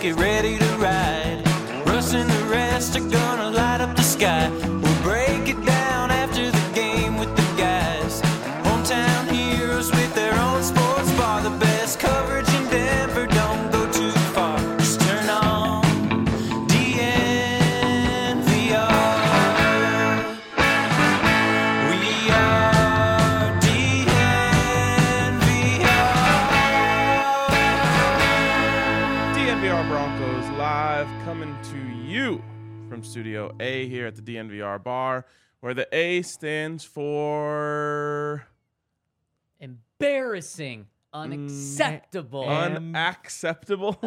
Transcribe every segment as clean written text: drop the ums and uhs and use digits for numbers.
get ready to ride. Russ and the rest are gonna light up the sky. We'll break it down after the game with the guys. Hometown heroes with their own sports bar. The best coverage in Denver, don't go too far. Just turn on DNVR. We are DNVR Broncos live, coming to you from Studio A here at the DNVR bar, where the A stands for Embarrassing. Unacceptable. unacceptable.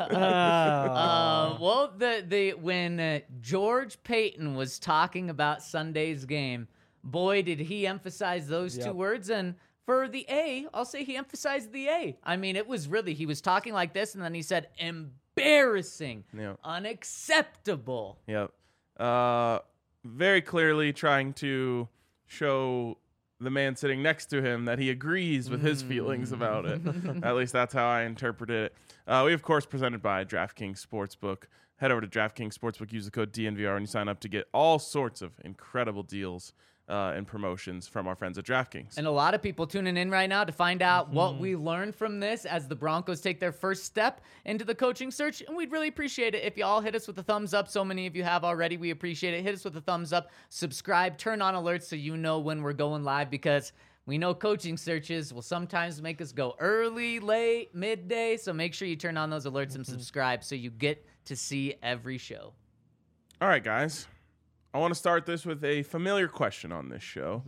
Well, when George Payton was talking about Sunday's game, boy, did he emphasize those two words. And for the A, I'll say he emphasized the A. I mean, it was really, he was talking like this, and then he said, embarrassing, Yep. unacceptable. Yep. Very clearly trying to show the man sitting next to him that he agrees with his feelings about it. At least that's how I interpreted it. We, of course, presented by DraftKings Sportsbook. Head over to DraftKings Sportsbook, use the code DNVR, and you sign up to get all sorts of incredible deals and promotions from our friends at DraftKings. And a lot of people tuning in right now to find out what we learned from this as the Broncos take their first step into the coaching search. And we'd really appreciate it if you all hit us with a thumbs up. So many of you have already. We appreciate it. Hit us with a thumbs up, subscribe, turn on alerts so you know when we're going live, because we know coaching searches will sometimes make us go early, late, midday. So make sure you turn on those alerts and subscribe so you get to see every show. All right, guys. I want to start this with a familiar question on this show.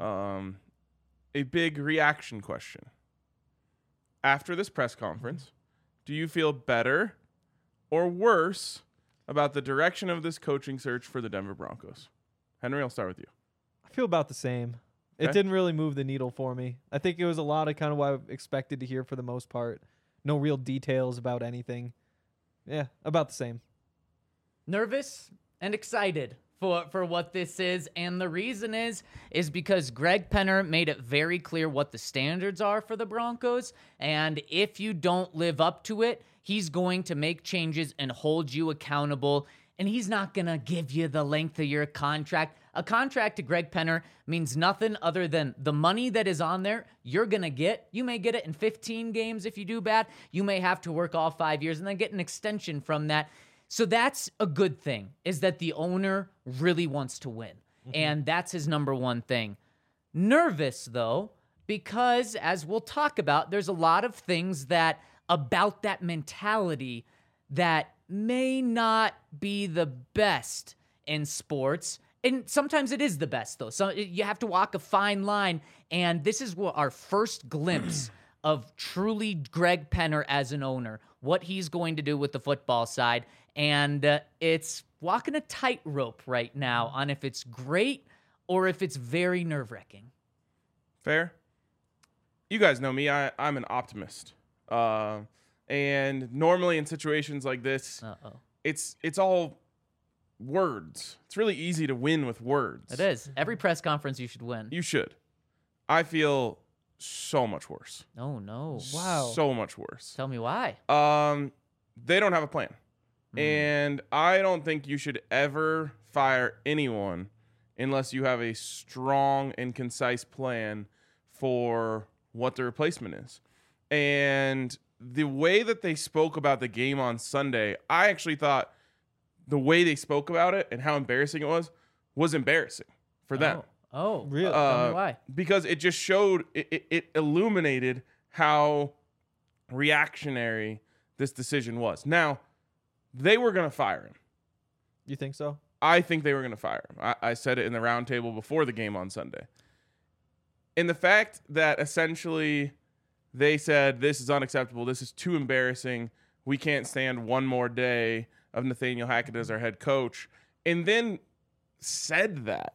A big reaction question. After this press conference, do you feel better or worse about the direction of this coaching search for the Denver Broncos? Henry, I'll start with you. I feel about the same. Okay. It didn't really move the needle for me. I think it was a lot of kind of what I expected to hear for the most part. No real details about anything. Yeah, about the same. Nervous and excited for what this is, and the reason is because Greg Penner made it very clear what the standards are for the Broncos, and if you don't live up to it, he's going to make changes and hold you accountable, and he's not going to give you the length of your contract. A contract to Greg Penner means nothing other than the money that is on there you're going to get. You may get it in 15 games if you do bad. You may have to work all 5 years and then get an extension from that. So that's a good thing, is that the owner really wants to win. And that's his number one thing. Nervous, though, because as we'll talk about, there's a lot of things that about that mentality that may not be the best in sports. And sometimes it is the best, though. So you have to walk a fine line. And this is what our first glimpse of truly Greg Penner as an owner, what he's going to do with the football side. And it's walking a tightrope right now on if it's great or if it's very nerve-wracking. Fair? You guys know me. I'm an optimist. And normally in situations like this, it's all words. It's really easy to win with words. It is. Every press conference you should win. You should. I feel so much worse. Oh, no. Wow. So much worse. Tell me why. They don't have a plan. And I don't think you should ever fire anyone unless you have a strong and concise plan for what the replacement is. And the way that they spoke about the game on Sunday, I actually thought the way they spoke about it and how embarrassing it was embarrassing for them. Oh, really? Tell me why. Because it just showed, it illuminated how reactionary this decision was. Now, they were going to fire him. You think so? I think they were going to fire him. I said it in the roundtable before the game on Sunday. And the fact that essentially they said, this is unacceptable, this is too embarrassing, we can't stand one more day of Nathaniel Hackett as our head coach, and then said that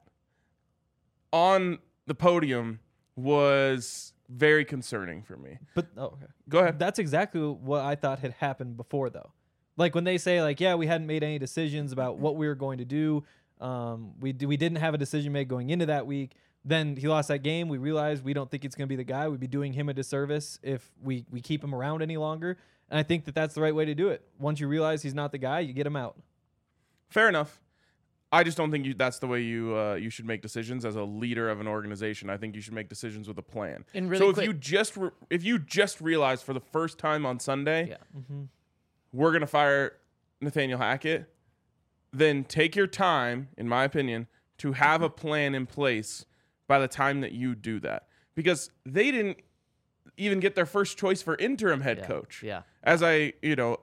on the podium was very concerning for me. But okay. Go ahead. That's exactly what I thought had happened before, though. Like when they say, like, yeah, we hadn't made any decisions about what we were going to do. We didn't have a decision made going into that week. Then he lost that game. We realized we don't think it's going to be the guy. We'd be doing him a disservice if we keep him around any longer. And I think that that's the right way to do it. Once you realize he's not the guy, you get him out. Fair enough. I just don't think that's the way you should make decisions as a leader of an organization. I think you should make decisions with a plan. And really so quick- if you just realize for the first time on Sunday, Yeah. we're going to fire Nathaniel Hackett, then take your time, in my opinion, to have a plan in place by the time that you do that. Because they didn't even get their first choice for interim head coach. Yeah. As I,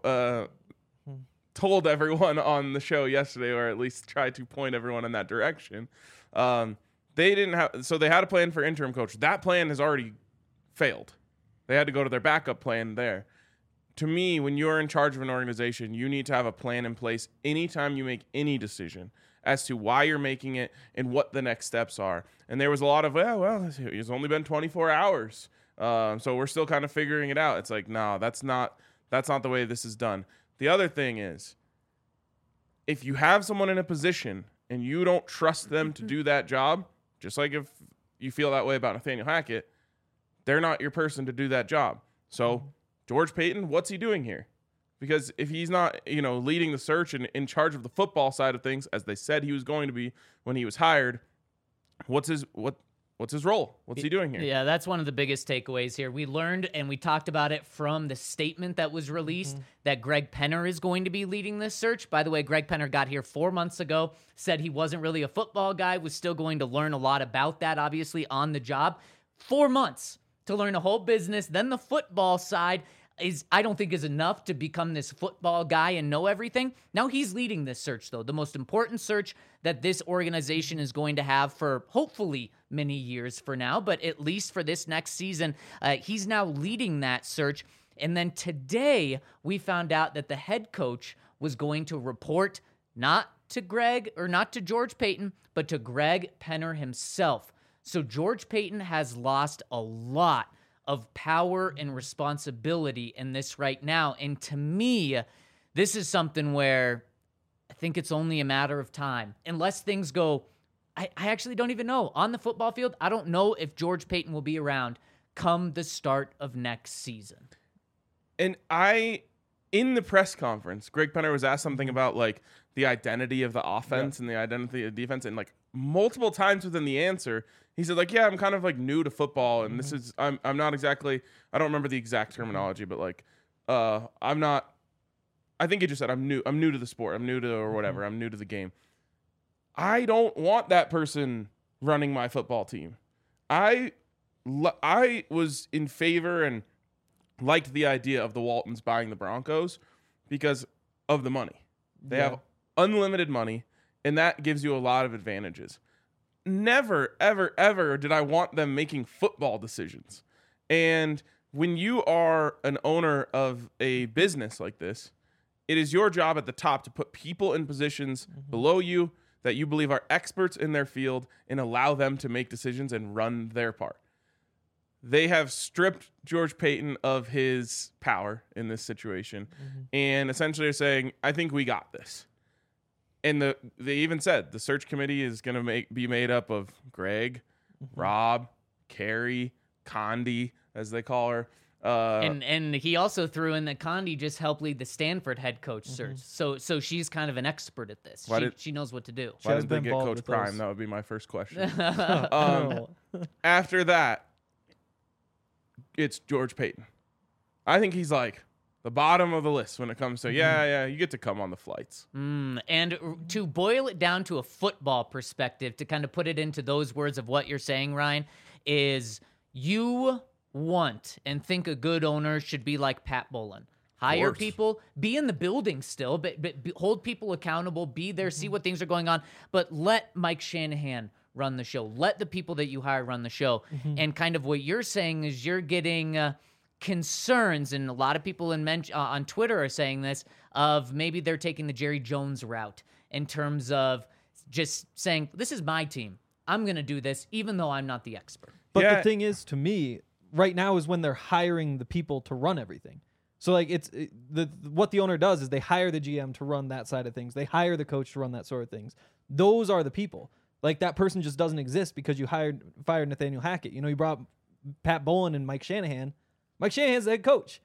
told everyone on the show yesterday, or at least tried to point everyone in that direction. They had a plan for interim coach. That plan has already failed. They had to go to their backup plan there. To me, when you're in charge of an organization, you need to have a plan in place anytime you make any decision as to why you're making it and what the next steps are. And there was a lot of, it's only been 24 hours. So we're still kind of figuring it out. It's like, no, that's not the way this is done. The other thing is, if you have someone in a position and you don't trust them to do that job, just like if you feel that way about Nathaniel Hackett, they're not your person to do that job. So George Paton, what's he doing here? Because if he's not, leading the search and in charge of the football side of things, as they said he was going to be when he was hired, what's his role? What's he doing here? Yeah, that's one of the biggest takeaways here. We learned and we talked about it from the statement that was released that Greg Penner is going to be leading this search. By the way, Greg Penner got here 4 months ago, said he wasn't really a football guy, was still going to learn a lot about that, obviously, on the job. 4 months to learn a whole business. Then the football side I don't think is enough to become this football guy and know everything. Now he's leading this search, though, the most important search that this organization is going to have for hopefully many years for now, but at least for this next season, he's now leading that search. And then today we found out that the head coach was going to report not to George Paton, but to Greg Penner himself. So George Paton has lost a lot of power and responsibility in this right now. And to me, this is something where I think it's only a matter of time. Unless things go, I actually don't even know. On the football field, I don't know if George Paton will be around come the start of next season. And in the press conference, Greg Penner was asked something about like the identity of the offense and the identity of the defense. And like multiple times within the answer, he said like, yeah, I'm kind of like new to football. And this is, I'm not exactly, I don't remember the exact terminology, but like, I'm not, I think he just said, I'm new to the sport. I'm new to, or whatever. I'm new to the game. I don't want that person running my football team. I was in favor and liked the idea of the Waltons buying the Broncos because of the money. They have unlimited money, and that gives you a lot of advantages. Never, ever, ever did I want them making football decisions. And when you are an owner of a business like this, it is your job at the top to put people in positions below you that you believe are experts in their field and allow them to make decisions and run their part. They have stripped George Paton of his power in this situation and essentially are saying, I think we got this. And they even said the search committee is going to be made up of Greg, Rob, Carrie, Condi, as they call her. And he also threw in that Condi just helped lead the Stanford head coach search. So she's kind of an expert at this. She knows what to do. Why didn't they get Coach Prime? That would be my first question. After that, it's George Paton. I think he's like the bottom of the list when it comes to, you get to come on the flights. And to boil it down to a football perspective, to kind of put it into those words of what you're saying, Ryan, is you want and think a good owner should be like Pat Bowlen. Hire people, be in the building still, but hold people accountable, be there, see what things are going on, but let Mike Shanahan run the show. Let the people that you hire run the show. And kind of what you're saying is you're getting concerns, and a lot of people on Twitter are saying this, of maybe they're taking the Jerry Jones route in terms of just saying, this is my team. I'm going to do this, even though I'm not the expert. But the thing is, to me, right now is when they're hiring the people to run everything. So like what the owner does is they hire the GM to run that side of things. They hire the coach to run that sort of things. Those are the people. Like that person just doesn't exist because you fired Nathaniel Hackett. You brought Pat Bowlen and Mike Shanahan. Mike Shanahan's the head coach.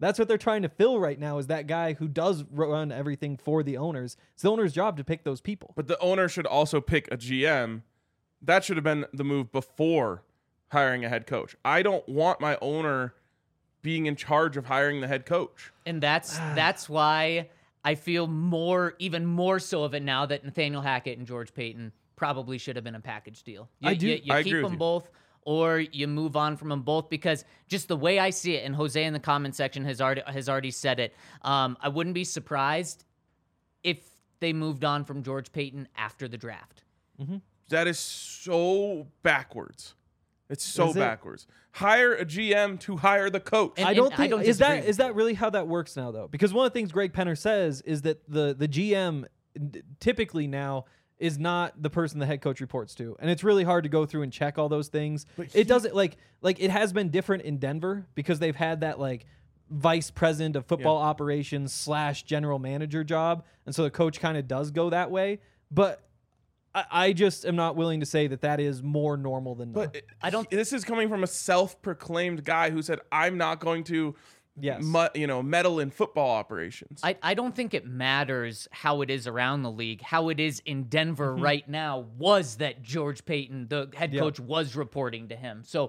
That's what they're trying to fill right now, is that guy who does run everything for the owners. It's the owner's job to pick those people. But the owner should also pick a GM. That should have been the move before hiring a head coach. I don't want my owner being in charge of hiring the head coach. And that's why I feel even more so of it now that Nathaniel Hackett and George Paton probably should have been a package deal. I You agree keep with them you. both, or you move on from them both, because just the way I see it, and Jose in the comment section has already said it, I wouldn't be surprised if they moved on from George Paton after the draft. That is so backwards. It's so Is it? backwards. Hire a GM to hire the coach. And- I don't I think don't is disagree with that really how that works now, though? Because one of the things Greg Penner says is that the GM typically is not the person the head coach reports to, and it's really hard to go through and check all those things. It doesn't like it has been different in Denver because they've had that like vice president of football operations / general manager job, and so the coach kind of does go that way. But I just am not willing to say that is more normal than not. But this is coming from a self-proclaimed guy who said, "I'm not going to, meddle in football operations." I don't think it matters how it is around the league. How it is in Denver right now was that George Paton, the head coach, was reporting to him. So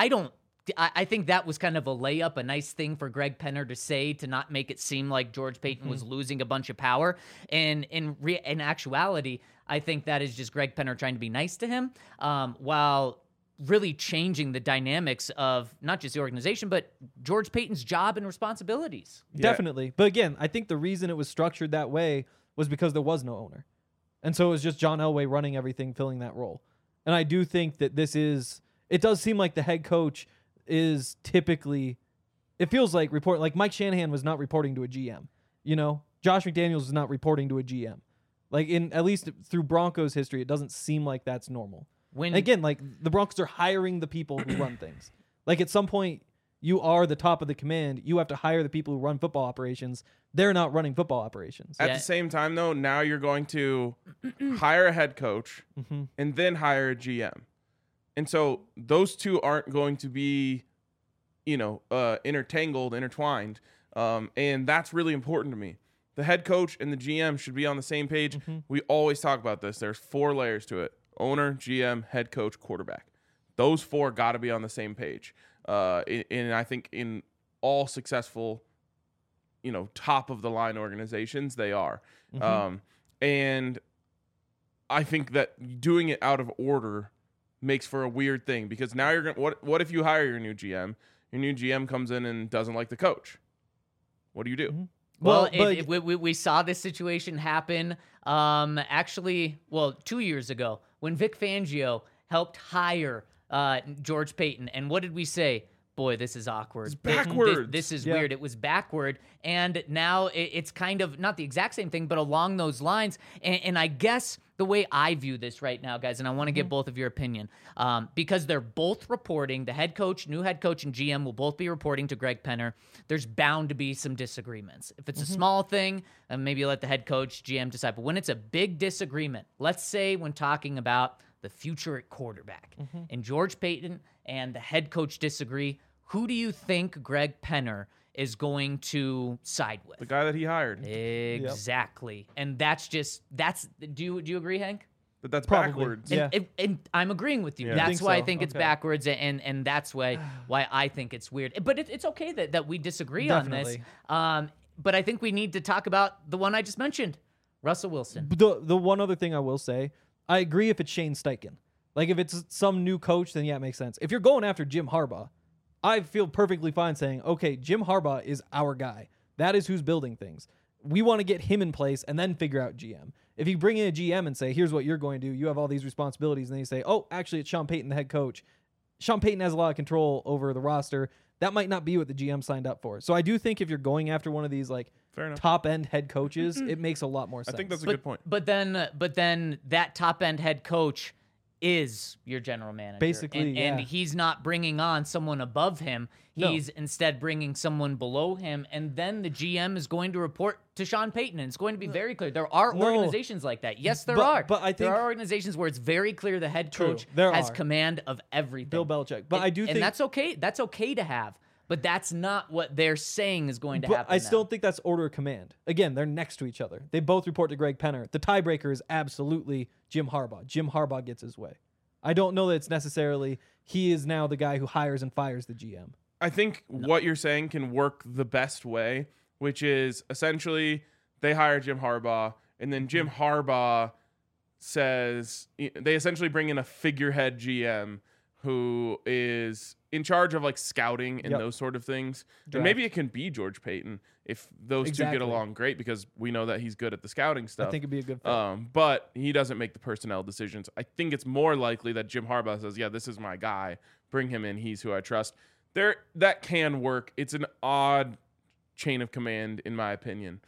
I think that was kind of a layup, a nice thing for Greg Penner to say to not make it seem like George Paton was losing a bunch of power. And in actuality, I think that is just Greg Penner trying to be nice to him, while really changing the dynamics of not just the organization, but George Paton's job and responsibilities. Definitely. But again, I think the reason it was structured that way was because there was no owner. And so it was just John Elway running everything, filling that role. And I do think that it does seem like the head coach is typically, it feels like Mike Shanahan was not reporting to a GM. Josh McDaniels is not reporting to a GM. At least through Broncos history, it doesn't seem like that's normal. And again, the Broncos are hiring the people who run things. At some point, you are the top of the command. You have to hire the people who run football operations. They're not running football operations. At the same time, though, now you're going to hire a head coach and then hire a GM. And so those two aren't going to be, intertwined. And that's really important to me. The head coach and the GM should be on the same page. We always talk about this. There's 4 layers to it: owner, GM, head coach, quarterback. Those 4 got to be on the same page. And I think in all successful, top of the line organizations, they are. And I think that doing it out of order makes for a weird thing, because now you're going, what if you hire your new GM? Your new GM comes in and doesn't like the coach. What do you do? Well, we saw this situation happen 2 years ago when Vic Fangio helped hire George Paton. And what did we say? Boy, this is awkward. It's backwards. This is weird. It was backward. And now it's kind of not the exact same thing, but along those lines. And I guess the way I view this right now, guys, and I want to get both of your opinion, because they're both reporting, the head coach, new head coach, and GM will both be reporting to Greg Penner. There's bound to be some disagreements. If it's a small thing, maybe you let the head coach, GM decide. But when it's a big disagreement, let's say when talking about the future at quarterback, and George Paton and the head coach disagree, who do you think Greg Penner is going to side with? The guy that he hired. Exactly. And do you agree, Hank? But that's Probably. backwards. Yeah. And I'm agreeing with you. Yeah. That's think why I so. think it's Okay. backwards, and that's why I think it's weird. But it's okay that we disagree on this. Definitely. But I think we need to talk about the one I just mentioned, Russell Wilson. The one other thing I will say, I agree if it's Shane Steichen. If it's some new coach, then yeah, it makes sense. If you're going after Jim Harbaugh, I feel perfectly fine saying, okay, Jim Harbaugh is our guy. That is who's building things. We want to get him in place and then figure out GM. If you bring in a GM and say, here's what you're going to do, you have all these responsibilities, and then you say, oh, actually, it's Sean Payton, the head coach. Sean Payton has a lot of control over the roster. That might not be what the GM signed up for. So I do think if you're going after one of these Fair enough. top-end head coaches, it makes a lot more sense. I think that's a good point. But then that top end head coach is your general manager. Basically, and yeah. he's not bringing on someone above him. He's instead bringing someone below him, and then the GM is going to report to Sean Payton, and it's going to be very clear. There are organizations like that. Yes, there are. But I think there are organizations where it's very clear the head True, coach there has are. command of everything. Bill Belichick. But I do think and that's okay. That's okay to have. But that's not what they're saying is going to But happen. I still now. don't think that's order of command. Again, they're next to each other. They both report to Greg Penner. The tiebreaker is absolutely Jim Harbaugh. Jim Harbaugh gets his way. I don't know that it's necessarily he is now the guy who hires and fires the GM. I think what you're saying can work the best way, which is essentially they hire Jim Harbaugh, and then Jim Harbaugh says they essentially bring in a figurehead GM who is in charge of like scouting and Yep. those sort of things. Draft. And maybe it can be George Payton if those two Exactly. get along great, because we know that he's good at the scouting stuff. I think it'd be a good fit. But he doesn't make the personnel decisions. I think it's more likely that Jim Harbaugh says, yeah, this is my guy. Bring him in. He's who I trust. That can work. It's an odd chain of command, in my opinion.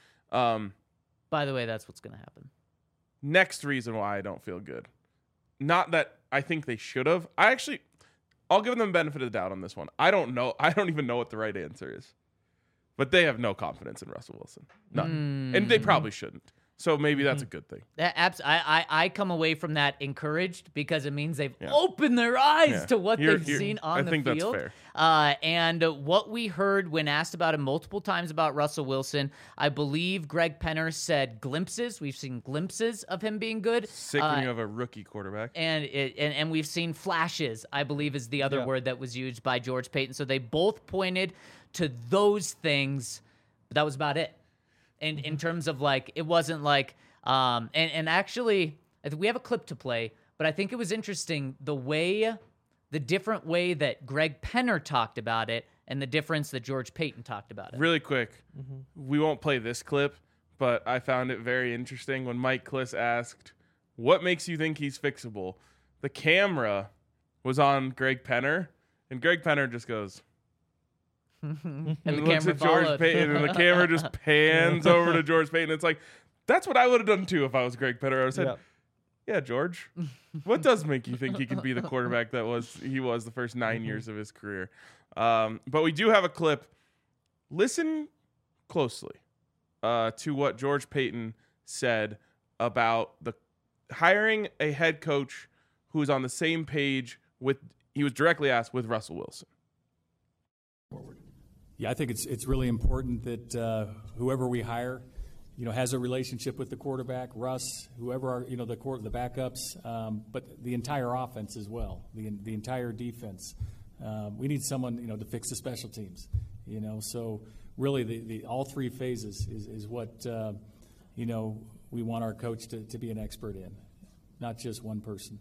By the way, that's what's going to happen. Next reason why I don't feel good. Not that I think they should have. I'll give them the benefit of the doubt on this one. I don't know. I don't even know what the right answer is. But they have no confidence in Russell Wilson. None. And they probably shouldn't. So maybe that's a good thing. I come away from that encouraged because it means they've opened their eyes Yeah. to what You're- they've seen on I the think that's field. fair. And what we heard when asked about him multiple times about Russell Wilson, I believe Greg Penner said glimpses. We've seen glimpses of him being good. Sickening of a rookie quarterback. And we've seen flashes, I believe is the other Yeah. word that was used by George Payton. So they both pointed to those things, but that was about it. And in terms of like, it wasn't like, and actually, I think we have a clip to play, but I think it was interesting the different way that Greg Penner talked about it and the difference that George Payton talked about it. Really quick, we won't play this clip, but I found it very interesting when Mike Kliss asked, what makes you think he's fixable? The camera was on Greg Penner, and Greg Penner just goes, And and the looks camera at George followed. Payton, and the camera just pans over to George Payton. It's like, that's what I would have done too if I was Greg Penner. I would have said, Yeah. yeah, George, what does make you think he can be the quarterback that he was the first 9 years of his career? But we do have a clip. Listen closely to what George Payton said about the hiring a head coach who is on the same page he was directly asked with Russell Wilson. Yeah, I think it's really important that whoever we hire, has a relationship with the quarterback, Russ, whoever the backups, but the entire offense as well, the entire defense. We need someone to fix the special teams. So really the all three phases is what we want our coach to be an expert in, not just one person.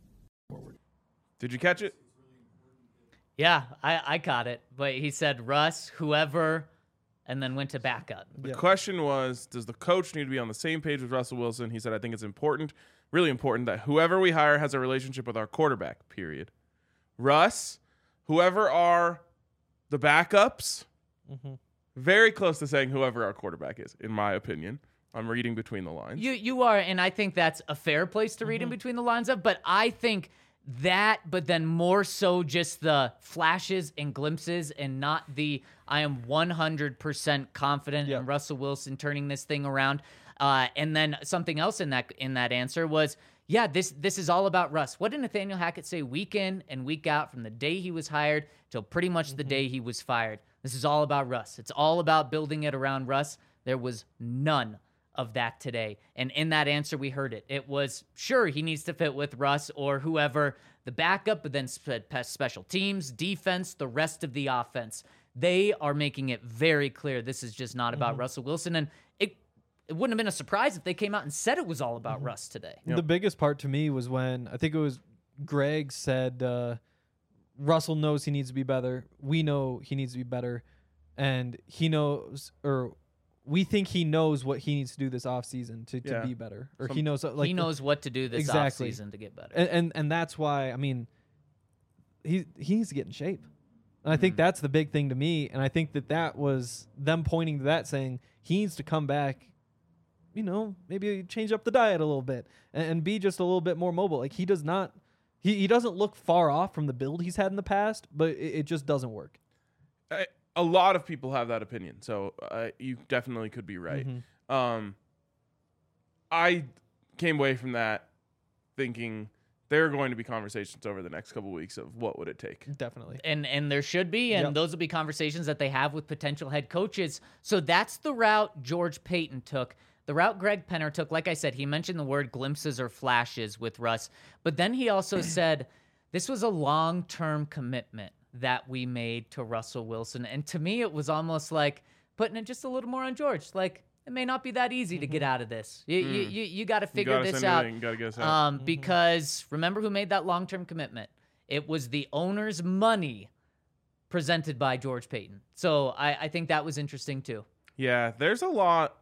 Did you catch it? Yeah, I caught it. But he said Russ, whoever, and then went to backup. The question was, does the coach need to be on the same page with Russell Wilson? He said, I think it's important, really important, that whoever we hire has a relationship with our quarterback, period. Russ, whoever are the backups, very close to saying whoever our quarterback is, in my opinion. I'm reading between the lines. You are, and I think that's a fair place to read in between the lines of, but I think that, but then more so just the flashes and glimpses and not the I am 100% confident in Russell Wilson turning this thing around. And then something else in that answer was, yeah, this is all about Russ. What did Nathaniel Hackett say week in and week out from the day he was hired till pretty much the day he was fired? This is all about Russ. It's all about building it around Russ. There was none of that today. And in that answer, we heard it. It was, sure, he needs to fit with Russ or whoever, the backup, but then special teams, defense, the rest of the offense. They are making it very clear this is just not about Russell Wilson. And it wouldn't have been a surprise if they came out and said it was all about Russ today. The biggest part to me was when I think it was Greg said Russell knows he needs to be better. We know he needs to be better. And he knows, or we think he knows what he needs to do this offseason to be better. Or he knows he knows what to do this offseason to get better. And that's why, I mean, he needs to get in shape. And I think that's the big thing to me. And I think that was them pointing to that, saying he needs to come back, maybe change up the diet a little bit and be just a little bit more mobile. Like he doesn't look far off from the build he's had in the past, but it just doesn't work. A lot of people have that opinion, so you definitely could be right. I came away from that thinking there are going to be conversations over the next couple weeks of what would it take. Definitely. And there should be, and Yep. those will be conversations that they have with potential head coaches. So that's the route George Payton took. The route Greg Penner took, like I said, he mentioned the word glimpses or flashes with Russ, but then he also said this was a long-term commitment that we made to Russell Wilson. And to me, it was almost like putting it just a little more on George. Like, it may not be that easy to get out of this. You got to figure this out. You got to get us out. Because remember who made that long-term commitment? It was the owner's money presented by George Payton. So I think that was interesting too. Yeah, there's a lot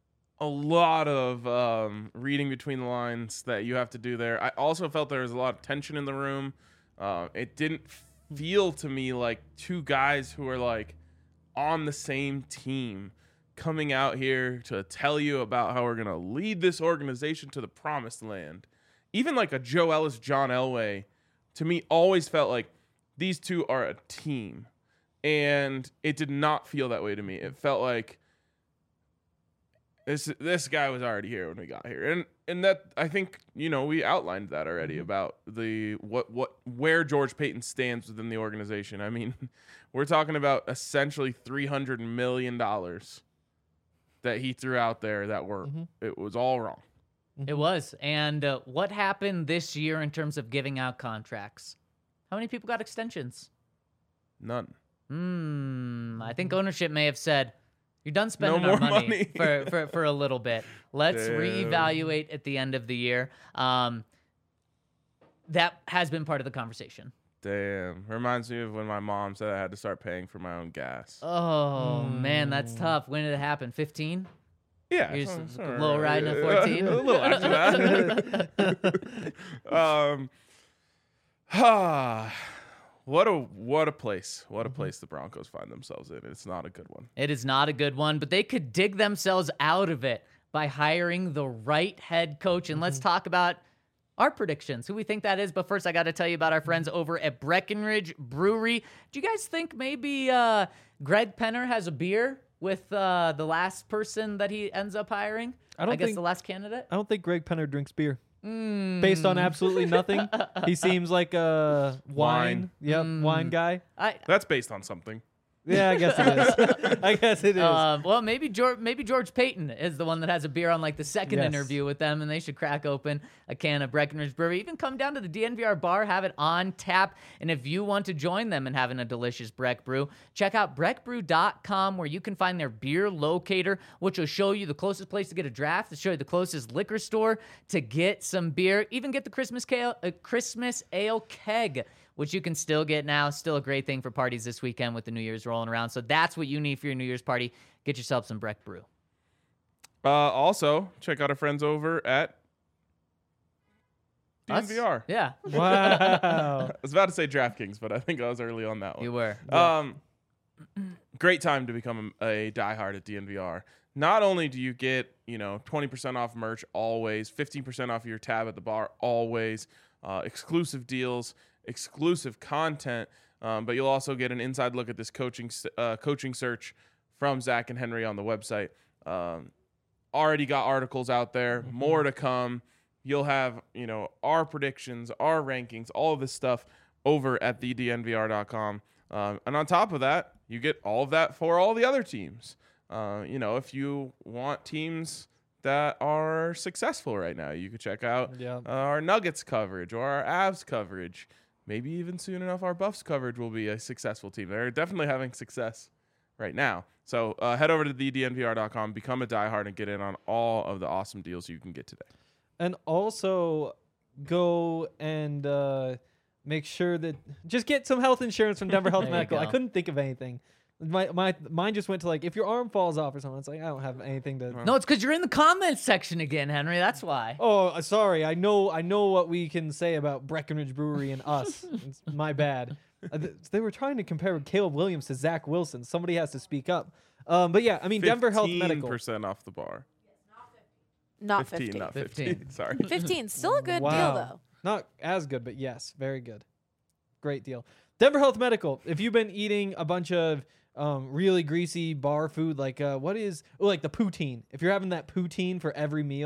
of reading between the lines that you have to do there. I also felt there was a lot of tension in the room. It didn't feel to me like two guys who are like on the same team coming out here to tell you about how we're going to lead this organization to the promised land. Even like a Joe Ellis, John Elway, to me always felt like these two are a team. And it did not feel that way to me. It felt like this guy was already here when we got here. And that, I think, we outlined that already about the where George Payton stands within the organization. I mean, we're talking about essentially $300 million that he threw out there that it was all wrong. It was. And what happened this year in terms of giving out contracts? How many people got extensions? None. I think ownership may have said, you're done spending No our more money for a little bit. Let's reevaluate at the end of the year. That has been part of the conversation. Damn. Reminds me of when my mom said I had to start paying for my own gas. Oh, man, that's tough. When did it happen? 15? Yeah. You're just low riding at 14? A little after that. What a place. What a place the Broncos find themselves in. It's not a good one. It is not a good one, but they could dig themselves out of it by hiring the right head coach. And let's talk about our predictions, who we think that is. But first, I got to tell you about our friends over at Breckenridge Brewery. Do you guys think maybe Greg Penner has a beer with the last person that he ends up hiring? I guess the last candidate? I don't think Greg Penner drinks beer. Based on absolutely nothing, he seems like a wine guy. That's based on something. Yeah, I guess it is. Well, maybe George Payton is the one that has a beer on like the second interview with them, and they should crack open a can of Breckenridge Brewery. Even come down to the DNVR bar, have it on tap. And if you want to join them in having a delicious Breck Brew, check out breckbrew.com, where you can find their beer locator, which will show you the closest place to get a draft, to show you the closest liquor store to get some beer, even get the Christmas ale keg, which you can still get now. Still a great thing for parties this weekend with the New Year's rolling around. So that's what you need for your New Year's party. Get yourself some Breck Brew. Also, check out our friends over at DNVR. Yeah. Wow. I was about to say DraftKings, but I think I was early on that one. You were. Great time to become a diehard at DNVR. Not only do you get, 20% off merch always, 15% off your tab at the bar always, exclusive deals, exclusive content, but you'll also get an inside look at this coaching search from Zach and Henry on the website. Already got articles out there, more to come. You'll have, our predictions, our rankings, all of this stuff over at thednvr.com. And on top of that, you get all of that for all the other teams. If you want teams that are successful right now, you could check out our Nuggets coverage or our Avs coverage. Maybe even soon enough, our Buffs coverage will be a successful team. They're definitely having success right now. So head over to thednvr.com, become a diehard, and get in on all of the awesome deals you can get today. And also go and make sure that just get some health insurance from Denver Health Medical. I couldn't think of anything. My mind just went to like, if your arm falls off or something, it's like, I don't have anything to. No, it's because you're in the comments section again, Henry. That's why. Oh, sorry. I know what we can say about Breckenridge Brewery and us. It's my bad. They were trying to compare Caleb Williams to Zach Wilson. Somebody has to speak up. But yeah, I mean, Denver Health Medical. 15% off the bar. Not 50. Not 50. 15. Sorry. 15. Still a good deal, Wow. though. Not as good, but yes, very good. Great deal. Denver Health Medical. If you've been eating a bunch of really greasy bar food, like like the poutine. If you're having that poutine for every meal,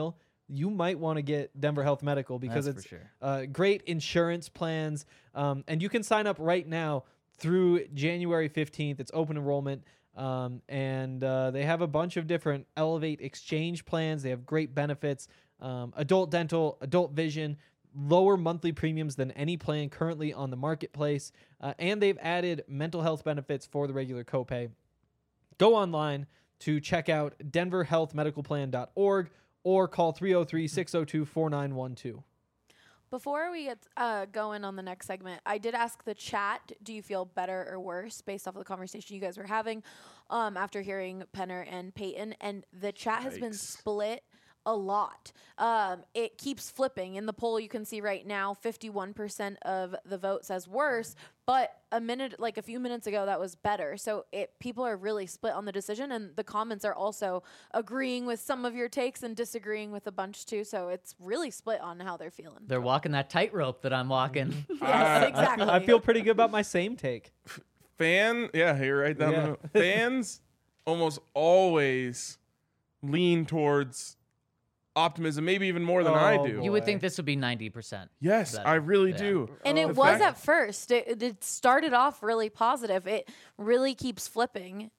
you might want to get Denver Health Medical because That's it's for sure. great insurance plans. And you can sign up right now through January 15th. It's open enrollment. And they have a bunch of different Elevate Exchange plans. They have great benefits, adult dental, adult vision, lower monthly premiums than any plan currently on the marketplace. And they've added mental health benefits for the regular copay. Go online to check out denverhealthmedicalplan.org or call 303-602-4912. Before we get going on the next segment, I did ask the chat, do you feel better or worse based off of the conversation you guys were having after hearing Penner and Payton? And the chat has been split a lot. It keeps flipping. In the poll, you can see right now, 51% of the vote says worse, but a few minutes ago, that was better. So people are really split on the decision, and the comments are also agreeing with some of your takes and disagreeing with a bunch too. So it's really split on how they're feeling. They're walking that tightrope that I'm walking. Yes, exactly. I feel pretty good about my same take. You're right down the middle. Fans almost always lean towards optimism, maybe even more than I do. You would think this would be 90%. Yes, better. I really Yeah. do. And it was at first. It started off really positive. It really keeps flipping.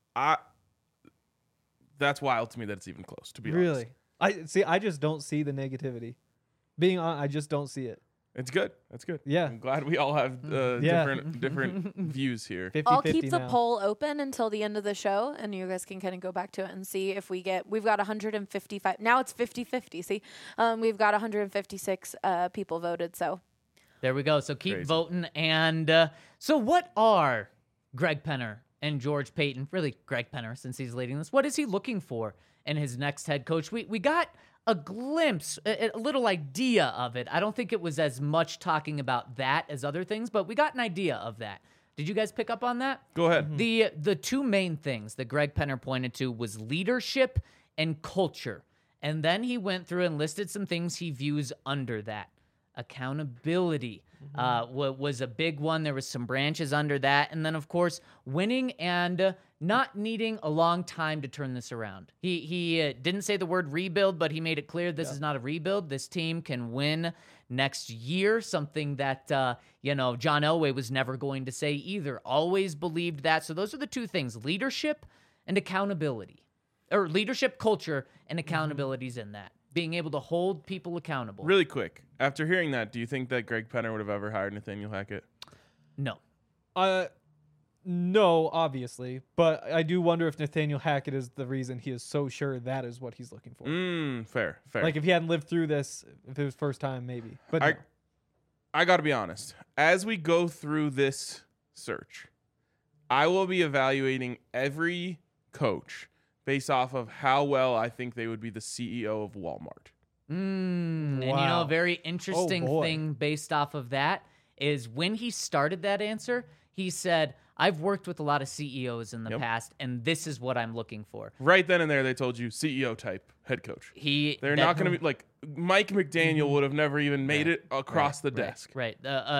That's wild to me that it's even close, to be Really? honest. I just don't see the negativity. Being on, I just don't see it. It's good. That's good. Yeah. I'm glad we all have different views here. 50-50 I'll keep the now. poll open until the end of the show, and you guys can kind of go back to it and see if we've got 155. Now it's 50-50. See, we've got 156 people voted. So There we go. So keep Crazy. voting. And so what are Greg Penner and George Payton, really Greg Penner since he's leading this, what is he looking for in his next head coach? We got a glimpse, a little idea of it. I don't think it was as much talking about that as other things, but we got an idea of that. Did you guys pick up on that? Go ahead. The two main things that Greg Penner pointed to was leadership and culture. And then he went through and listed some things he views under that. Accountability was a big one. There was some branches under that. And then, of course, winning and not needing a long time to turn this around. He didn't say the word rebuild, but he made it clear this is not a rebuild. This team can win next year, something that, John Elway was never going to say either. Always believed that. So those are the two things, leadership and accountability. Or leadership, culture, and accountability's in that. Being able to hold people accountable. Really quick, after hearing that, do you think that Greg Penner would have ever hired Nathaniel Hackett? No. No, obviously, but I do wonder if Nathaniel Hackett is the reason he is so sure that is what he's looking for. Fair. Like if he hadn't lived through this, if it was first time, maybe. But no. I got to be honest. As we go through this search, I will be evaluating every coach based off of how well I think they would be the CEO of Walmart. And Wow. a very interesting boy. thing based off of that is when he started that answer, he said, I've worked with a lot of CEOs in the past, and this is what I'm looking for. Right then and there, they told you CEO type head coach. They're not going to be like Mike McDaniel would have never even made it across the desk. Right.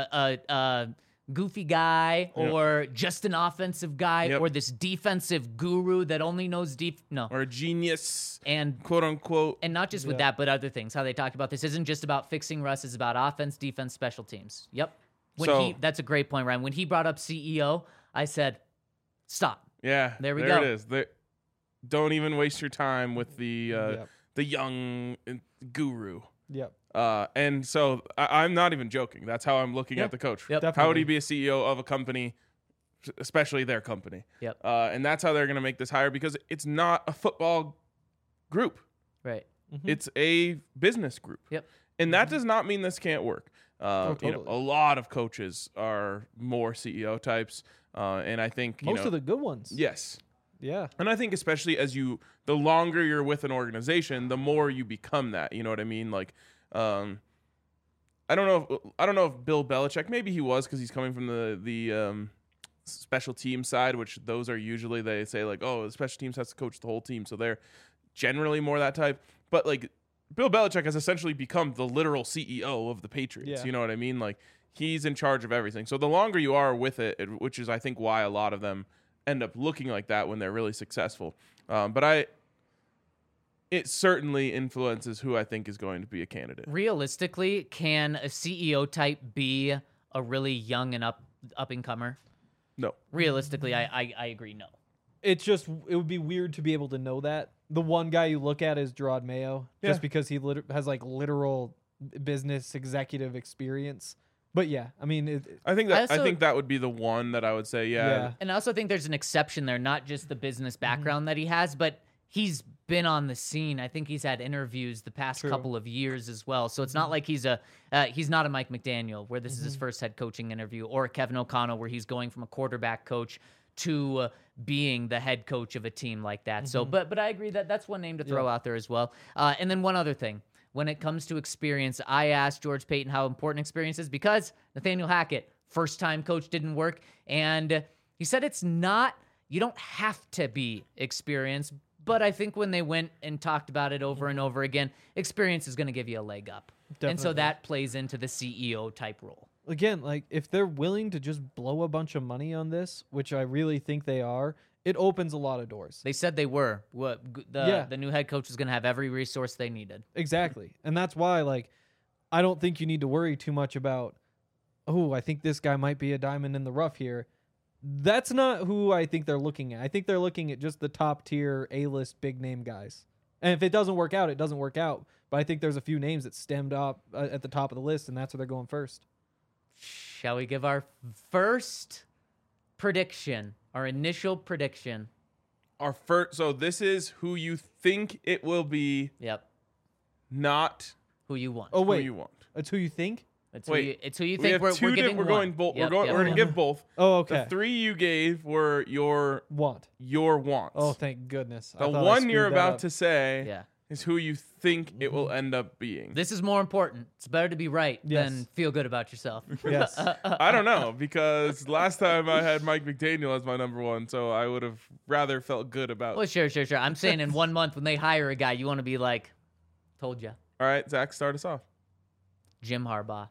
Goofy guy or just an offensive guy or this defensive guru that only knows Or a genius, and quote unquote. And not just with that, but other things. How they talked about this isn't just about fixing Russ, it's about offense, defense, special teams. Yep. That's a great point, Ryan. When he brought up CEO, I said, stop. Yeah. There we there go. it is. Don't even waste your time with the young guru. Yep. And so I'm not even joking. That's how I'm looking at the coach. Yep. How would he be a CEO of a company, especially their company? Yep. And that's how they're going to make this hire because it's not a football group. Right. It's a business group. Yep. And that does not mean this can't work. Totally. A lot of coaches are more CEO types. And I think Most of the good ones. Yes. Yeah. And I think especially the longer you're with an organization, the more you become that. You know what I mean? Like, I don't know if Bill Belichick, maybe he was because he's coming from the special team side, which those are usually they say like, oh, the special teams has to coach the whole team, so they're generally more that type. But like Bill Belichick has essentially become the literal CEO of the Patriots. Yeah. You know what I mean? Like he's in charge of everything. So the longer you are with it, which is I think why a lot of them end up looking like that when they're really successful. But it certainly influences who I think is going to be a candidate. Realistically, can a CEO type be a really young and up and comer? No. Realistically, I agree. No. It's just, it would be weird to be able to know that. The one guy you look at is Gerard Mayo, just Yeah. because he has like literal business executive experience. But yeah, I mean, I think I that that would be the one that I would say, yeah. And I also think there's an exception there, not just the business background that he has, but he's been on the scene. I think he's had interviews the past True. couple of years as well. So it's not like he's not a Mike McDaniel where this is his first head coaching interview, or Kevin O'Connell where he's going from a quarterback coach to being the head coach of a team like that. So, but I agree that that's one name to throw out there as well. And then one other thing. When it comes to experience, I asked George Paton how important experience is because Nathaniel Hackett, first-time coach, didn't work. And he said it's not, you don't have to be experienced. But I think when they went and talked about it over and over again, experience is going to give you a leg up. And so Definitely. that plays into the CEO type role. Again, like if they're willing to just blow a bunch of money on this, which I really think they are, it opens a lot of doors. They said they were. The new head coach was going to have every resource they needed. Exactly. And that's why, like, I don't think you need to worry too much about, oh, I think this guy might be a diamond in the rough here. That's not who I think they're looking at. I think they're looking at just the top tier A-list big name guys. And if it doesn't work out, it doesn't work out. But I think there's a few names that stemmed up at the top of the list, and that's where they're going first. Shall we give our first prediction, our initial prediction? Our first. So this is who you think it will be, Yep. not Who you want. Oh, who wait. you want. It's who you think? It's wait. who you We think have we're two. giving We're one. going both. Yep, We're yep. going to give both. Oh, okay. The three you gave were your Want. wants. Oh, thank goodness. The one you're about to to. say Yeah. is who you think it will end up being. This is more important. It's better to be right Yes. than feel good about yourself. Yes. I don't know, because last time I had Mike McDaniel as my number one, so I would have rather felt good about. Well, sure. I'm saying in 1 month when they hire a guy, you want to be like, told you, All right, Zach, start us off. Jim Harbaugh.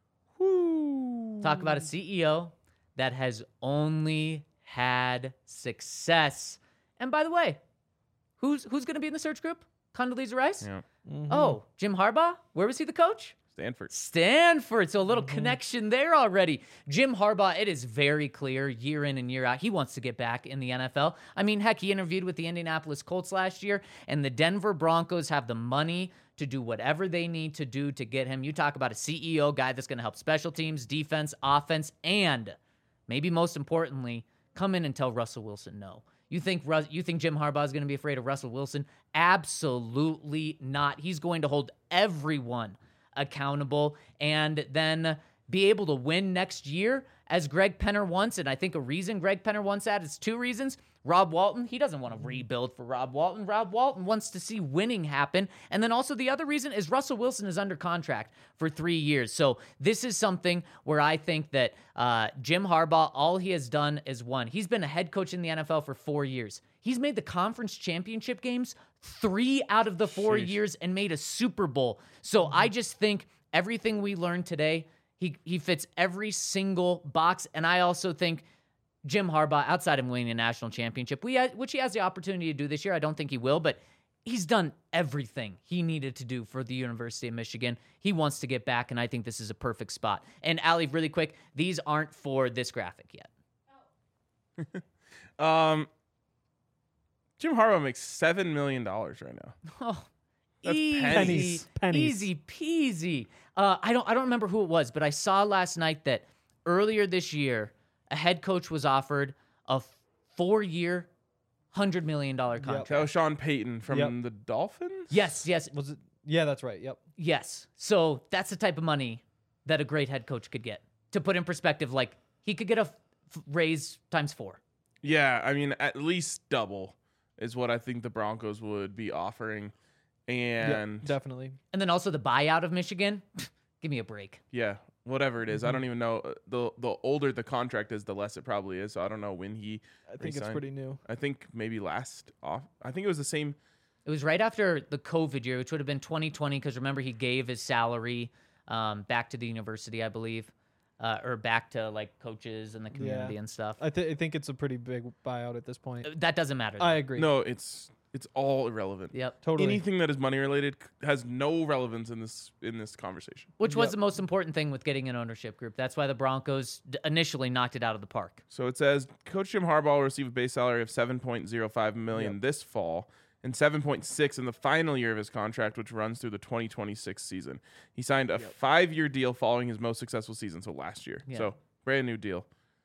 Woo. Talk about a CEO that has only had success. And by the way, who's going to be in the search group? Condoleezza Rice? Yeah, Oh, Jim Harbaugh? Where was he the coach? Stanford. Stanford. So a little connection there already. Jim Harbaugh, it is very clear year in and year out, he wants to get back in the NFL. I mean, heck, he interviewed with the Indianapolis Colts last year, and the Denver Broncos have the money to do whatever they need to do to get him. You talk about a CEO guy that's going to help special teams, defense, offense, and maybe most importantly, come in and tell Russell Wilson no. You think Jim Harbaugh is going to be afraid of Russell Wilson? Absolutely not. He's going to hold everyone accountable and then be able to win next year as Greg Penner wants. And I think a reason Greg Penner wants that is two reasons. Rob Walton, he doesn't want to rebuild for Rob Walton. Rob Walton wants to see winning happen. And then also the other reason is Russell Wilson is under contract for 3 years. So this is something where I think that Jim Harbaugh, all he has done is won. He's been a head coach in the NFL for 4 years. He's made the conference championship games 3 out of the 4 years and made a Super Bowl. So I just think everything we learned today, he fits every single box. And I also think Jim Harbaugh, outside of winning a national championship, which he has the opportunity to do this year, I don't think he will, but he's done everything he needed to do for the University of Michigan. He wants to get back, and I think this is a perfect spot. And Allie, really quick, these aren't for this graphic yet. Jim Harbaugh makes $7 million right now. Oh, That's easy, pennies. easy peasy. I don't remember who it was, but I saw last night that earlier this year, a head coach was offered a 4-year, $100 million contract. That was Sean Payton from Yep. the Dolphins? Yes. Was it? Yeah, that's right. Yep. Yes. So that's the type of money that a great head coach could get. To put in perspective, like he could get a raise times 4. Yeah, I mean, at least double is what I think the Broncos would be offering. And Yep, definitely. And then also the buyout of Michigan. Give me a break. yeah, whatever it is. I don't even know. The older the contract is, the less it probably is. So I don't know when he I think it's resigned. pretty new. I think maybe last off. I think it was the same. It was right after the COVID year, which would have been 2020, because remember he gave his salary back to the university, I believe, or back to like coaches and the community and stuff. I think it's a pretty big buyout at this point. That doesn't matter. though. I agree. No, it's It's all irrelevant. Yep. Totally. Anything that is money related has no relevance in this conversation. Which was the most important thing with getting an ownership group. That's why the Broncos initially knocked it out of the park. So it says Coach Jim Harbaugh will receive a base salary of $7.05 million this fall and $7.6 in the final year of his contract, which runs through the 2026 season. He signed a 5-year deal following his most successful season, so last year. Yeah. So brand new deal.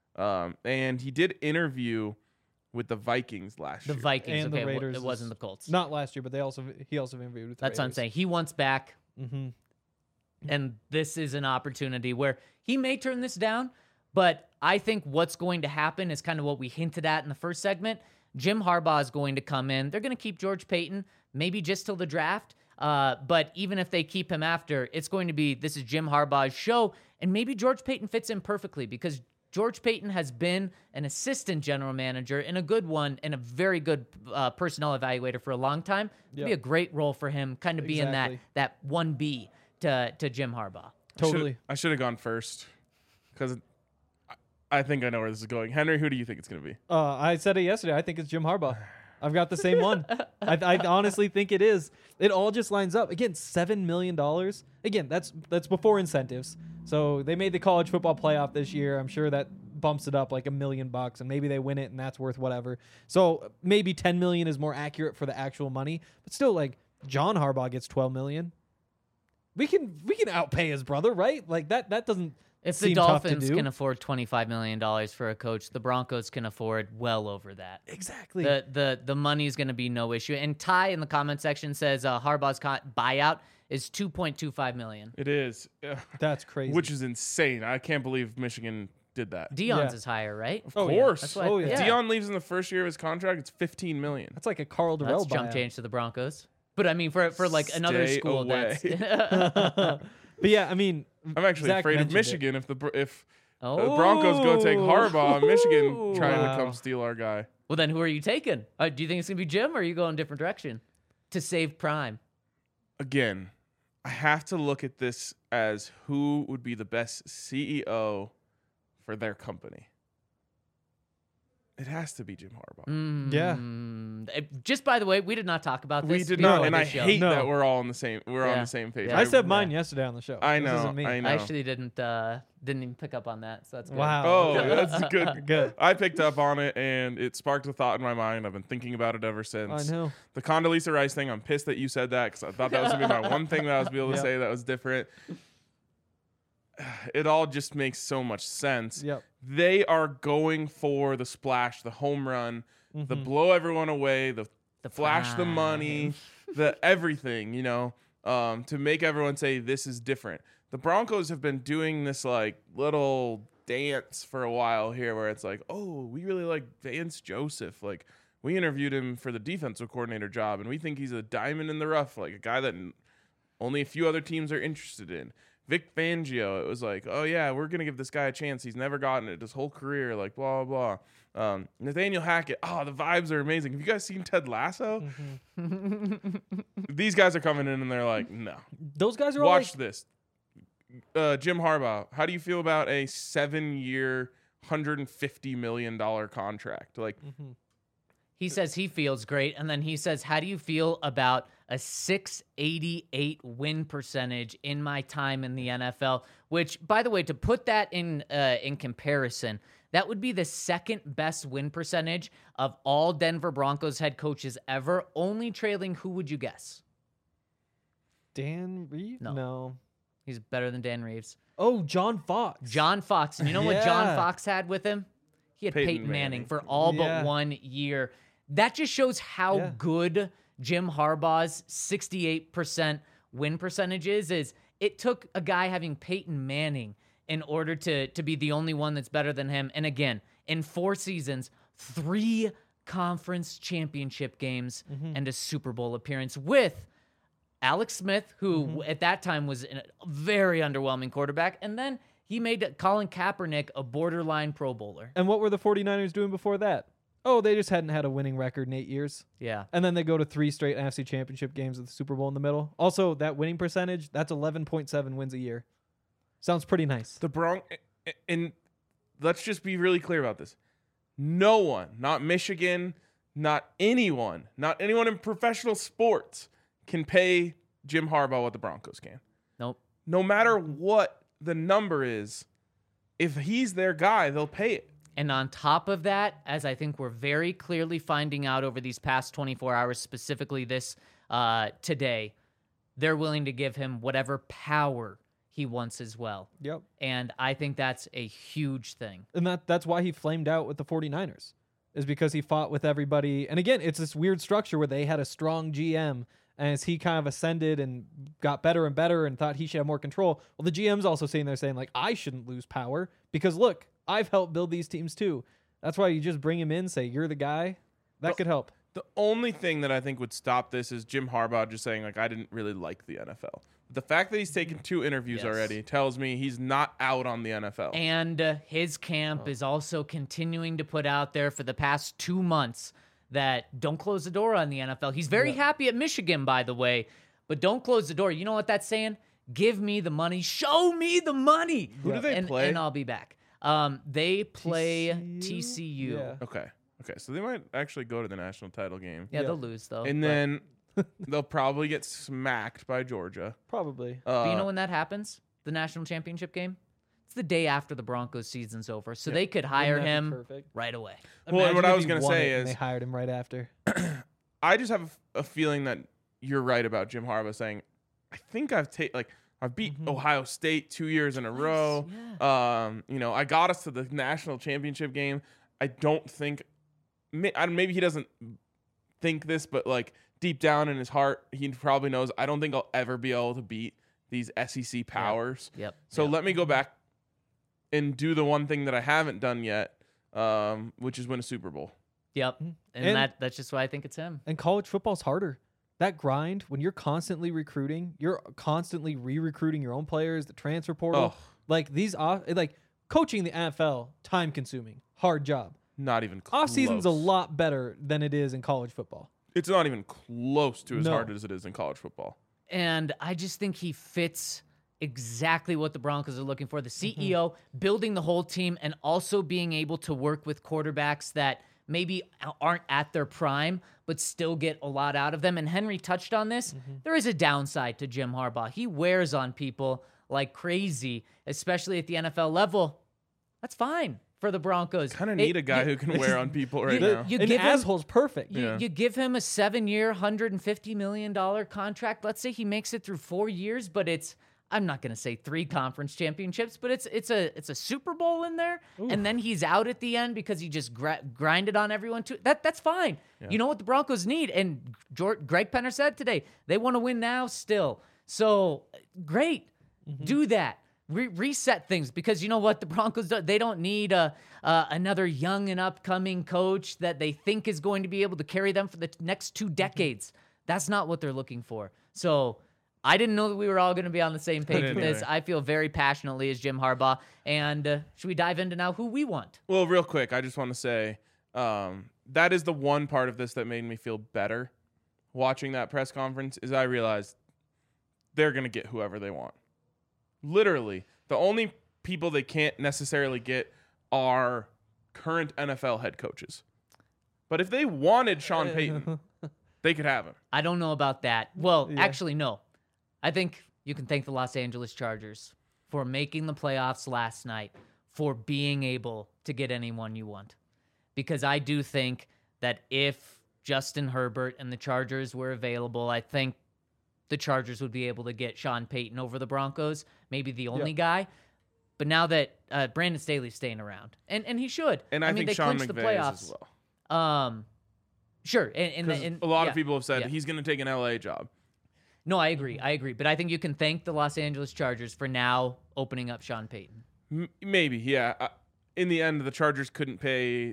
And he did interview with the Vikings last The year. Vikings, And the okay, Raiders it wasn't the Colts. Not last year, but he also interviewed with the That's what I'm Raiders. saying. He wants back, Mm-hmm. and this is an opportunity where he may turn this down, but I think what's going to happen is kind of what we hinted at in the first segment. Jim Harbaugh is going to come in. They're going to keep George Paton, maybe just till the draft. But even if they keep him after, it's going to be, this is Jim Harbaugh's show, and maybe George Paton fits in perfectly because George Paton has been an assistant general manager and a good one and a very good personnel evaluator for a long time. It'd be a great role for him, kind of being that 1B to Jim Harbaugh. Totally. I should have gone first because I think I know where this is going. Henry, who do you think it's going to be? I said it yesterday. I think it's Jim Harbaugh. I've got the same one. I honestly think it is. It all just lines up. Again, $7 million. Again, that's before incentives. So they made the college football playoff this year. I'm sure that bumps it up like $1 million, and maybe they win it, and that's worth whatever. So maybe $10 million is more accurate for the actual money. But still, like John Harbaugh gets $12 million. We can outpay his brother, right? Like that doesn't. If the seem tough to Dolphins do. can afford $25 million for a coach, the Broncos can afford well over that. Exactly. The money is going to be no issue. And Ty in the comment section says Harbaugh's buyout is $2.25 million. It is. That's crazy. Which is insane. I can't believe Michigan did that. Dion's Yeah. is higher, right? Of Oh, yeah. course. That's why- Oh, yeah. Dion leaves in the first year of his contract. It's $15 million. That's like a Carl That's Durrell jump buyout. change to the Broncos. But I mean, for like another Stay school, away. that's But yeah, I mean, I'm actually Zach afraid of mentioned Michigan if the oh. Broncos go take Harbaugh, Michigan trying to come steal our guy. Well, then who are you taking? Do you think it's gonna be Jim, or are you going a different direction to save Prime? Again, I have to look at this as who would be the best CEO for their company. It has to be Jim Harbaugh. Yeah. Just by the way, we did not talk about this. We did before not, and this I show. hate No. that we're all on the same. We're on Yeah. the same page. Yeah. I said mine yesterday on the show. I This know. isn't me. I know. I actually didn't even pick up on that, so that's good. Wow. Oh, that's good. Good. I picked up on it, and it sparked a thought in my mind. I've been thinking about it ever since. I know. The Condoleezza Rice thing, I'm pissed that you said that because I thought that was going to be my one thing that I was able to Yep. say that was different. It all just makes so much sense. Yep. They are going for the splash, the home run, the Mm-hmm. blow everyone away, the flash the prime. money, the everything, to make everyone say this is different. The Broncos have been doing this like little dance for a while here where it's like, oh, we really like Vance Joseph. Like we interviewed him for the defensive coordinator job and we think he's a diamond in the rough, like a guy that only a few other teams are interested in. Vic Fangio, it was like, oh yeah, we're going to give this guy a chance. He's never gotten it his whole career, like blah, blah, blah. Nathaniel Hackett, the vibes are amazing. Have you guys seen Ted Lasso? These guys are coming in and they're like, no. Those guys are all Watch like, this. Jim Harbaugh, how do you feel about a 7-year, $150 million contract? Like, He says he feels great, and then he says, "How do you feel about a 688 win percentage in my time in the NFL?" Which, by the way, to put that in comparison, that would be the second best win percentage of all Denver Broncos head coaches ever, only trailing, who would you guess? Dan Reeves? No. He's better than Dan Reeves. Oh, John Fox. John Fox. And you know what John Yeah. Fox had with him? He had Peyton Peyton Manning Manning. for all Yeah. but 1 year. That just shows how Yeah. good Jim Harbaugh's 68% win percentage is it took a guy having Peyton Manning in order to be the only one that's better than him. And again, in 4 seasons, 3 conference championship games and a Super Bowl appearance with Alex Smith, who at that time was a very underwhelming quarterback. And then he made Colin Kaepernick a borderline Pro Bowler. And what were the 49ers doing before that? Oh, they just hadn't had a winning record in 8 years. Yeah. And then they go to 3 straight NFC championship games with the Super Bowl in the middle. Also, that winning percentage, that's 11.7 wins a year. Sounds pretty nice. the Broncos, and let's just be really clear about this. No one, not Michigan, not anyone in professional sports can pay Jim Harbaugh what the Broncos can. Nope. No matter what the number is, if he's their guy, they'll pay it. And on top of that, as I think we're very clearly finding out over these past 24 hours, specifically this today, they're willing to give him whatever power he wants as well. Yep. And I think that's a huge thing. And that's why he flamed out with the 49ers, is because he fought with everybody. And again, it's this weird structure where they had a strong GM, and as he kind of ascended and got better and better and thought he should have more control, well, the GM's also sitting there saying, like, I shouldn't lose power because, look, I've helped build these teams too. That's why you just bring him in, say, you're the guy. That could help. The only thing that I think would stop this is Jim Harbaugh just saying, like, I didn't really like the NFL. The fact that he's taken 2 interviews Yes. already tells me he's not out on the NFL. And his camp is also continuing to put out there for the past 2 months that don't close the door on the NFL. He's very happy at Michigan, by the way, but don't close the door. You know what that's saying? Give me the money. Show me the money. Who do they play? And I'll be back. They play TCU. Yeah. Okay, so they might actually go to the national title game. Yeah, they'll lose, though. And but- then they'll probably get smacked by Georgia. Probably. But you know when that happens? The national championship game? It's the day after the Broncos season's over. So they could hire Wouldn't that be him perfect? right away. Well, Imagine what I if was he gonna won say it and is- they hired him right after. I just have a feeling that you're right about Jim Harbaugh saying, I think I've beat Ohio State 2 years in a row. Yeah. I got us to the national championship game. I don't think maybe he doesn't think this, but like deep down in his heart, he probably knows I don't think I'll ever be able to beat these SEC powers. Yep. So Yep. let me go back and do the one thing that I haven't done yet, which is win a Super Bowl. Yep. And that's just why I think it's him. And college football's harder. That grind, when you're constantly recruiting, you're constantly re-recruiting your own players, the transfer portal. Oh. Like coaching the NFL, time consuming, hard job. Not even close. Off season's a lot better than it is in college football. It's not even close to as No. hard as it is in college football. And I just think he fits exactly what the Broncos are looking for. The CEO, building the whole team, and also being able to work with quarterbacks that maybe aren't at their prime, but still get a lot out of them. And Henry touched on this. There is a downside to Jim Harbaugh. He wears on people like crazy, especially at the NFL level. That's fine for the Broncos. Kind of need a guy who can wear on people right now. You An give him, asshole's perfect. you give him a 7-year, $150 million contract. Let's say he makes it through 4 years, but I'm not going to say 3 conference championships, but it's a Super Bowl in there, and then he's out at the end because he just grinded on everyone too. That's fine. You know what the Broncos need, and Greg Penner said today they want to win now still. So great, do that. Reset things, because you know what the Broncos do? They don't need another young and upcoming coach that they think is going to be able to carry them for the next 2 decades. That's not what they're looking for. So I didn't know that we were all going to be on the same page with this. either. I feel very passionately as Jim Harbaugh. And should we dive into now who we want? Well, real quick, I just want to say that is the one part of this that made me feel better watching that press conference is I realized they're going to get whoever they want. Literally, the only people they can't necessarily get are current NFL head coaches. But if they wanted Sean Payton, they could have him. I don't know about that. Well, actually, no. I think you can thank the Los Angeles Chargers for making the playoffs last night, for being able to get anyone you want. Because I do think that if Justin Herbert and the Chargers were available, I think the Chargers would be able to get Sean Payton over the Broncos, maybe the only guy. But now that Brandon Staley's staying around, and he should. And I mean, think they Sean clinched the McVay playoffs. is as well. Sure. And Because a lot yeah, of people have said yeah. he's going to take an LA job. No, I agree. But I think you can thank the Los Angeles Chargers for now opening up Sean Payton. Maybe, yeah. In the end, the Chargers couldn't pay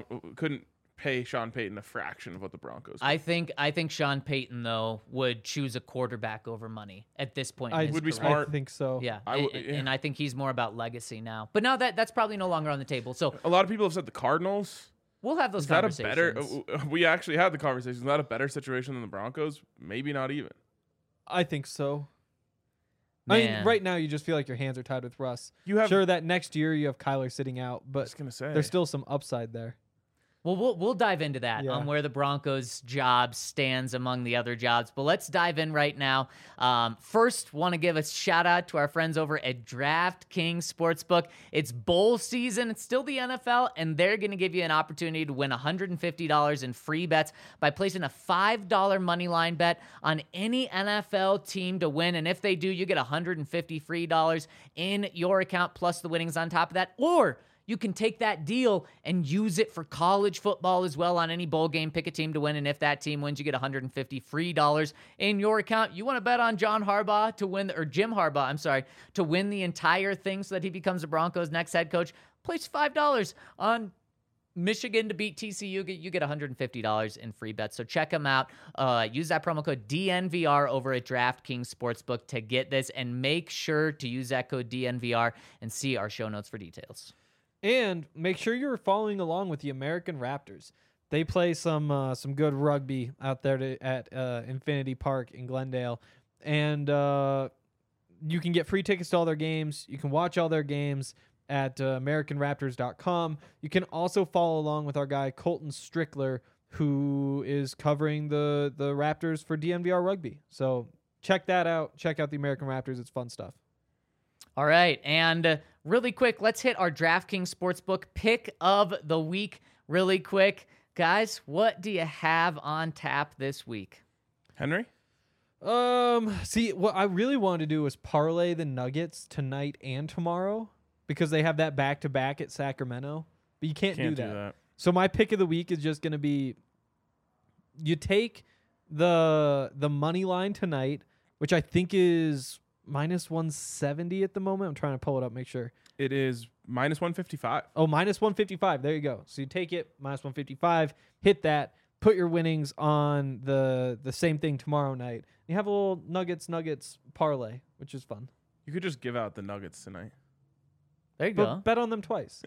Sean Payton a fraction of what the Broncos. I think Sean Payton though would choose a quarterback over money at this point. in I his would be career. smart. I think so. Yeah, I and I think he's more about legacy now. But now that's probably no longer on the table. So A lot of people have said the Cardinals. we'll have those Is that a conversations. better? We actually had the conversation. Is that a better situation than the Broncos? Maybe not even. I think so. I mean, Man. right now you just feel like your hands are tied with Russ. You have- sure that next year you have Kyler sitting out, but was gonna say. there's still some upside there. Well, we'll dive into that Yeah. on where the Broncos' job stands among the other jobs. But let's dive in right now. First, want to give a shout out to our friends over at DraftKings Sportsbook. It's bowl season. It's still the NFL, and they're going to give you an opportunity to win $150 in free bets by placing a $5 money line bet on any NFL team to win. And if they do, you get $150 free dollars in your account plus the winnings on top of that. Or you can take that deal and use it for college football as well on any bowl game. Pick a team to win, and if that team wins, you get $150 free dollars in your account. You want to bet on Jim Harbaugh, I'm sorry, to win the entire thing so that he becomes the Broncos' next head coach. Place $5 on Michigan to beat TCU. You get $150 in free bets. So check them out. Use that promo code DNVR over at DraftKings Sportsbook to get this, and make sure to use that code DNVR and see our show notes for details. And make sure you're following along with the American Raptors. They play some good rugby out there at Infinity Park in Glendale, and you can get free tickets to all their games. You can watch all their games at AmericanRaptors.com. You can also follow along with our guy Colton Strickler, who is covering the Raptors for DNVR Rugby. So check that out. Check out the American Raptors. It's fun stuff. All right, and really quick, let's hit our DraftKings Sportsbook pick of the week really quick. Guys, what do you have on tap this week? Henry? See, what I really wanted to do was parlay the Nuggets tonight and tomorrow because they have that back-to-back at Sacramento, but you can't do that. So my pick of the week is just going to be you take the money line tonight, which I think is minus 170 at the moment. I'm trying to pull it up, make sure. It is minus 155. Oh, minus 155. There you go. So you take it, minus 155, hit that, put your winnings on the same thing tomorrow night. You have a little Nuggets parlay, which is fun. You could just give out the Nuggets tonight. There you But go. bet on them twice.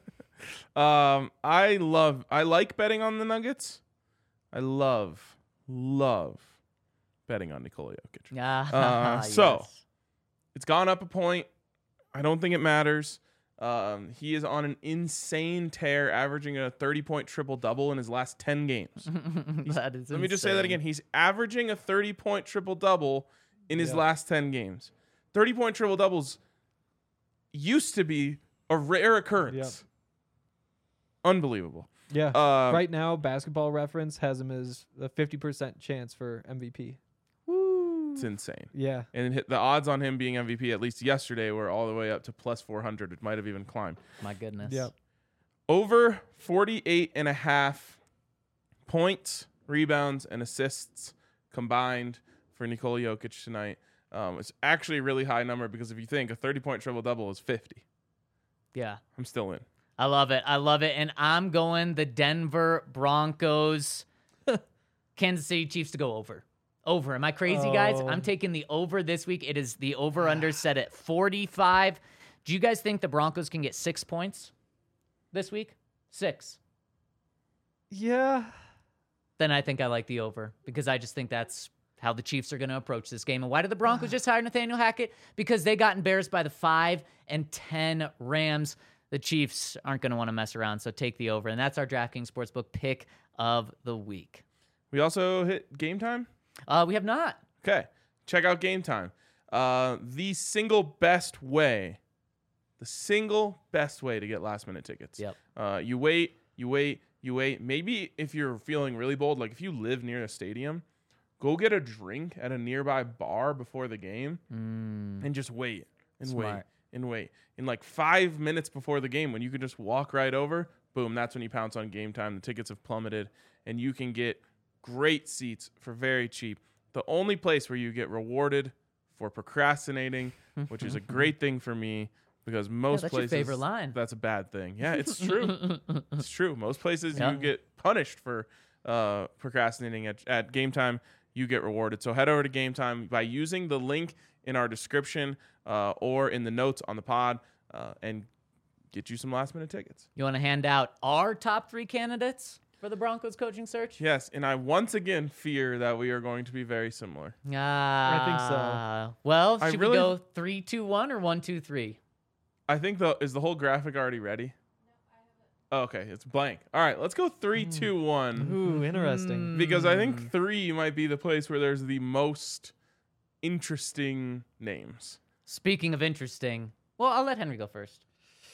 I like betting on the Nuggets. I love betting on Nikola Jokic. So Yes. it's gone up a point. I don't think it matters. He is on an insane tear, averaging a 30-point triple-double in his last 10 games. That is Let me just say that again. He's averaging a 30-point triple-double in his last 10 games. 30-point triple-doubles used to be a rare occurrence. Unbelievable. Yeah. Right now, Basketball Reference has him as a 50% chance for MVP. It's insane. Yeah. And the odds on him being MVP, at least yesterday, were all the way up to plus 400. It might have even climbed. My goodness. Yep. Over 48.5 points, rebounds, and assists combined for Nikola Jokic tonight. It's actually a really high number because if you think a 30-point triple-double is 50. Yeah. I'm still in. I love it. And I'm going the Denver Broncos, Kansas City Chiefs to go over. Over. Am I crazy, guys? Oh. I'm taking the over this week. It is the over-under set at 45. Do you guys think the Broncos can get 6 points this week? 6. Yeah. Then I think I like the over because I just think that's how the Chiefs are going to approach this game. And why did the Broncos just hire Nathaniel Hackett? Because they got embarrassed by the 5 and 10 Rams. The Chiefs aren't going to want to mess around, so take the over. And that's our DraftKings Sportsbook pick of the week. We also hit Game Time. We have not. Okay. Check out Game Time. The single best way to get last-minute tickets. Yep. You wait. Maybe if you're feeling really bold, like if you live near a stadium, go get a drink at a nearby bar before the game and just wait and Smart. wait. In like 5 minutes before the game, when you can just walk right over, boom, that's when you pounce on Game Time. The tickets have plummeted, and you can get great seats for very cheap. The only place where you get rewarded for procrastinating, which is a great thing for me because most that's your places favorite line. that's a bad thing. Yeah, it's true. It's true. Most places Yeah. you get punished for procrastinating at Game Time. You get rewarded. So head over to Game Time by using the link in our description or in the notes on the pod and get you some last-minute tickets. You want to hand out our top 3 candidates for the Broncos coaching search? Yes, and I once again fear that we are going to be very similar. I think so. Well, I should really- we go 3-2-1 or 1-2-3? I think is the whole graphic already ready? Oh, okay, it's blank. All right, let's go 3, 2, 1. Ooh, interesting. Because I think 3 might be the place where there's the most interesting names. Speaking of interesting, well, I'll let Henry go first.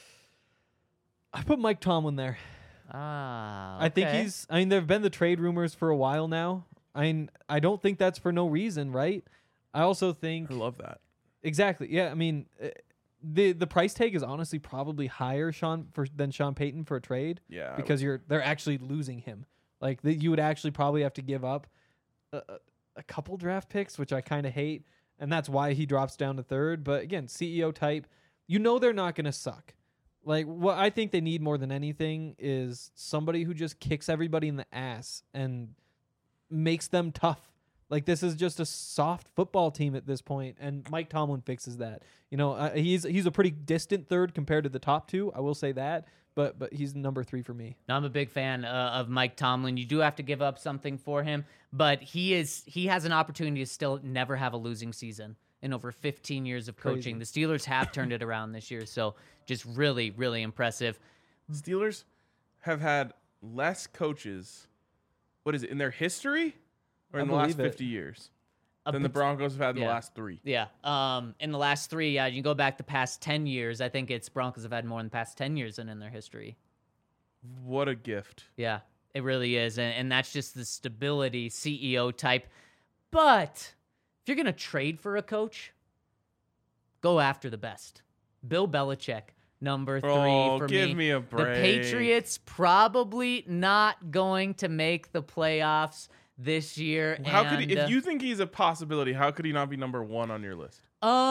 I put Mike Tomlin there. Ah, I think okay. I mean, there have been the trade rumors for a while now. I don't think that's for no reason, right? I also think I love that. exactly. Yeah, I mean, the price tag is honestly probably higher than Sean Payton for a trade. Yeah, I because they're actually losing him. Like you would actually probably have to give up a couple draft picks, which I kind of hate, and that's why he drops down to 3rd. But again, CEO type, they're not going to suck. Like what I think they need more than anything is somebody who just kicks everybody in the ass and makes them tough. Like this is just a soft football team at this point, and Mike Tomlin fixes that. He's a pretty distant 3rd compared to the top 2. I will say that, but he's number 3 for me. Now, I'm a big fan of Mike Tomlin. You do have to give up something for him, but he has an opportunity to still never have a losing season in over 15 years of coaching. Crazy. The Steelers have turned it around this year, so just really, really impressive. Steelers have had less coaches, what is it, in their history or I in the last believe it. 50 years A than the pot- Broncos have had in yeah. the last 3? Yeah. In the last 3, you can go back the past 10 years. I think it's Broncos have had more in the past 10 years than in their history. What a gift. Yeah, it really is. And that's just the stability CEO type. But if you're going to trade for a coach, go after the best. Bill Belichick, number 3 Oh, for give me. me a The break. Patriots probably not going to make the playoffs this year. How could and, he, if you think he's a possibility, how could he not be number 1 on your list?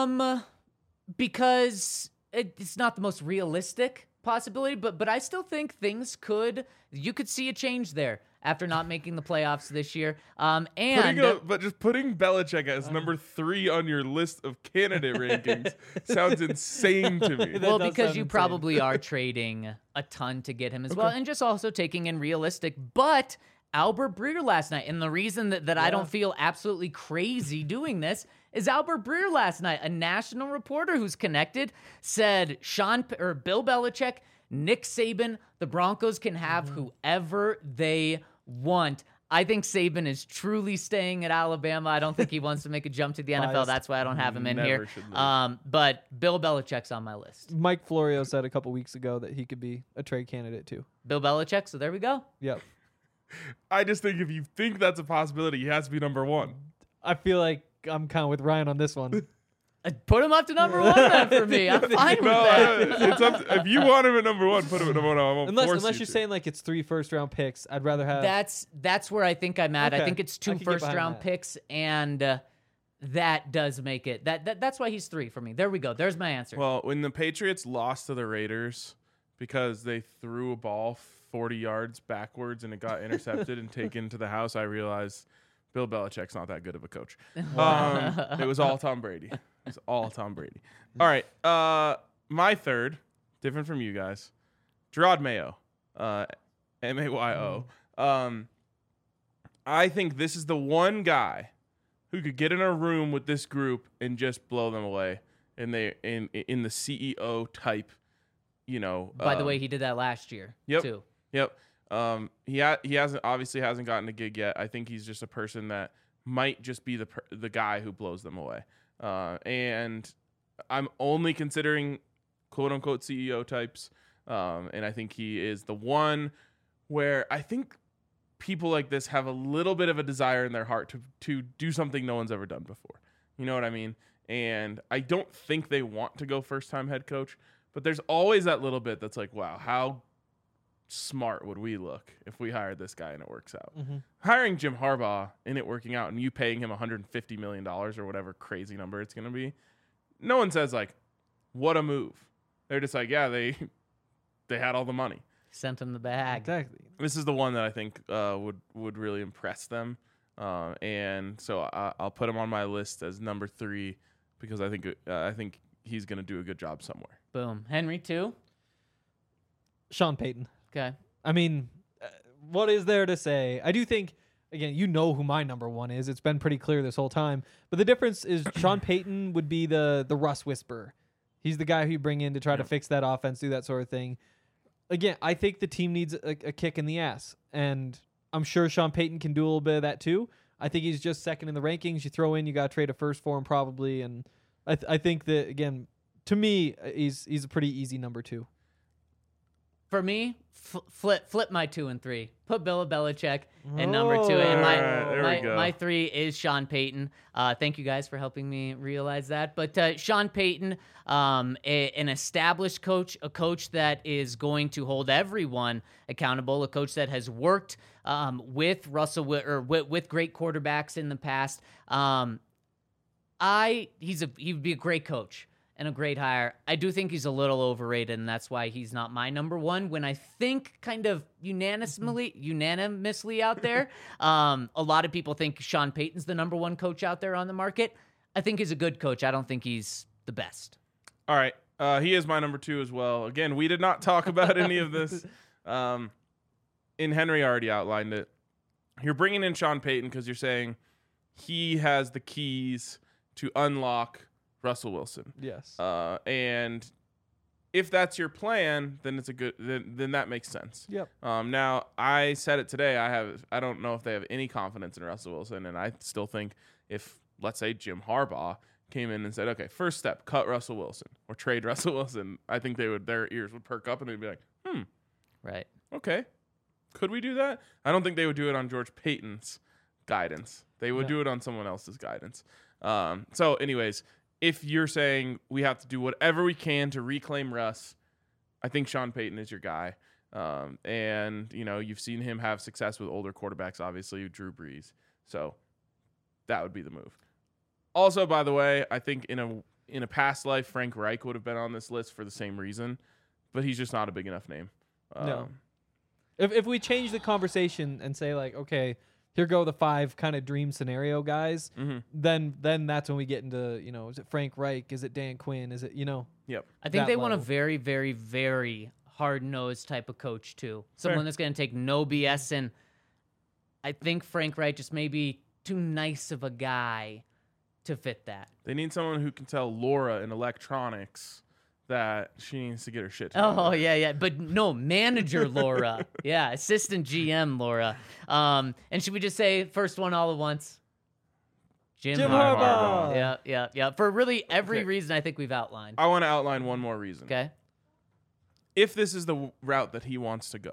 Because it's not the most realistic possibility, but I still think you could see a change there after not making the playoffs this year. But just putting Belichick as number 3 on your list of candidate rankings sounds insane to me. well, does because sound you insane. probably are trading a ton to get him as well, and just also taking in realistic. But Albert Breer last night, and the reason that I don't feel absolutely crazy doing this is Albert Breer last night, a national reporter who's connected, said Bill Belichick, Nick Saban, the Broncos can have whoever they want. I think Saban is truly staying at Alabama. I don't think he wants to make a jump to the NFL. Biased. That's why I don't have him in Never here. should leave. But Bill Belichick's on my list. Mike Florio said a couple weeks ago that he could be a trade candidate too. Bill Belichick, so there we go. Yep. I just think if you think that's a possibility, he has to be number 1. I feel like I'm kind of with Ryan on this one. Put him up to number 1 then for me. I'm fine with No, that. it's up if you want him at number 1, put him at number 1. I won't force Unless you you're to. saying like it's 3 first-round picks, I'd rather have. That's where I think I'm at. I Okay. think it's I 2 can get behind first-round that. picks, and that does make it. That's why he's 3 for me. There we go. There's my answer. Well, when the Patriots lost to the Raiders because they threw a ball 40 yards backwards and it got intercepted and taken to the house, I realized Bill Belichick's not that good of a coach. It was all Tom Brady. It was all Tom Brady. All right. My 3rd, different from you guys, Gerard Mayo, Mayo. I think this is the one guy who could get in a room with this group and just blow them away. And they in the CEO type, By the way, he did that last year Yep. too. Yep. He hasn't gotten a gig yet. I think he's just a person that might just be the guy who blows them away. And I'm only considering quote unquote CEO types. And I think he is the one where I think people like this have a little bit of a desire in their heart to do something no one's ever done before. You know what I mean? And I don't think they want to go first time head coach, but there's always that little bit that's like, wow, how smart would we look if we hired this guy and it works out? Hiring Jim Harbaugh and it working out and you paying him $150 million or whatever crazy number it's going to be, no one says like, what a move. They're just like, yeah, they had all the money. Sent him the bag. Exactly. This is the one that I think would really impress them. And so I'll put him on my list as number 3 because I think he's going to do a good job somewhere. Boom. Henry 2. Sean Payton. Okay. I mean, what is there to say? I do think, again, you know who my number 1 is. It's been pretty clear this whole time. But the difference is Sean Payton would be the Russ whisperer. He's the guy who you bring in to try to fix that offense, do that sort of thing. again, I think the team needs a kick in the ass, and I'm sure Sean Payton can do a little bit of that too. I think he's just second in the rankings. You throw in, you got to trade a first for him probably, and I think that, again, to me, he's a pretty easy number 2. For me, flip my 2 and 3. Put Bill Belichick at number 2, and my 3 is Sean Payton. Thank you guys for helping me realize that. But Sean Payton, an established coach, a coach that is going to hold everyone accountable, a coach that has worked with with great quarterbacks in the past. He'd be a great coach and a great hire. I do think he's a little overrated, and that's why he's not my number 1. When I think kind of unanimously out there, a lot of people think Sean Payton's the number 1 coach out there on the market. I think he's a good coach. I don't think he's the best. All right. He is my number 2 as well. Again, we did not talk about any of this. And Henry already outlined it. You're bringing in Sean Payton because you're saying he has the keys to unlock Russell Wilson. Yes. And if that's your plan, then it's a good. Then that makes sense. Yep. Now I said it today. I don't know if they have any confidence in Russell Wilson, and I still think if, let's say, Jim Harbaugh came in and said, okay, first step, cut Russell Wilson or trade Russell Wilson, I think their ears would perk up and they'd be like, Right. Okay, could we do that? I don't think they would do it on George Payton's guidance. They would do it on someone else's guidance. So anyways, if you're saying we have to do whatever we can to reclaim Russ, I think Sean Payton is your guy. And, you've seen him have success with older quarterbacks, obviously, Drew Brees. So that would be the move. Also, by the way, I think in a past life, Frank Reich would have been on this list for the same reason, but he's just not a big enough name. No. If we change the conversation and say, like, okay, here go the 5 kind of dream scenario guys, then that's when we get into, is it Frank Reich? Is it Dan Quinn? Is it, Yep. I think they want a level. very, very, very hard-nosed type of coach, too. Someone that's going to take no BS, and I think Frank Reich just may be too nice of a guy to fit that. They need someone who can tell Laura in electronics that she needs to get her shit together. Oh, yeah. But no, manager Laura. Yeah, assistant GM Laura. And should we just say first one all at once? Jim Harbaugh. Yeah. For really every reason I think we've outlined. I want to outline one more reason. Okay. If this is the route that he wants to go,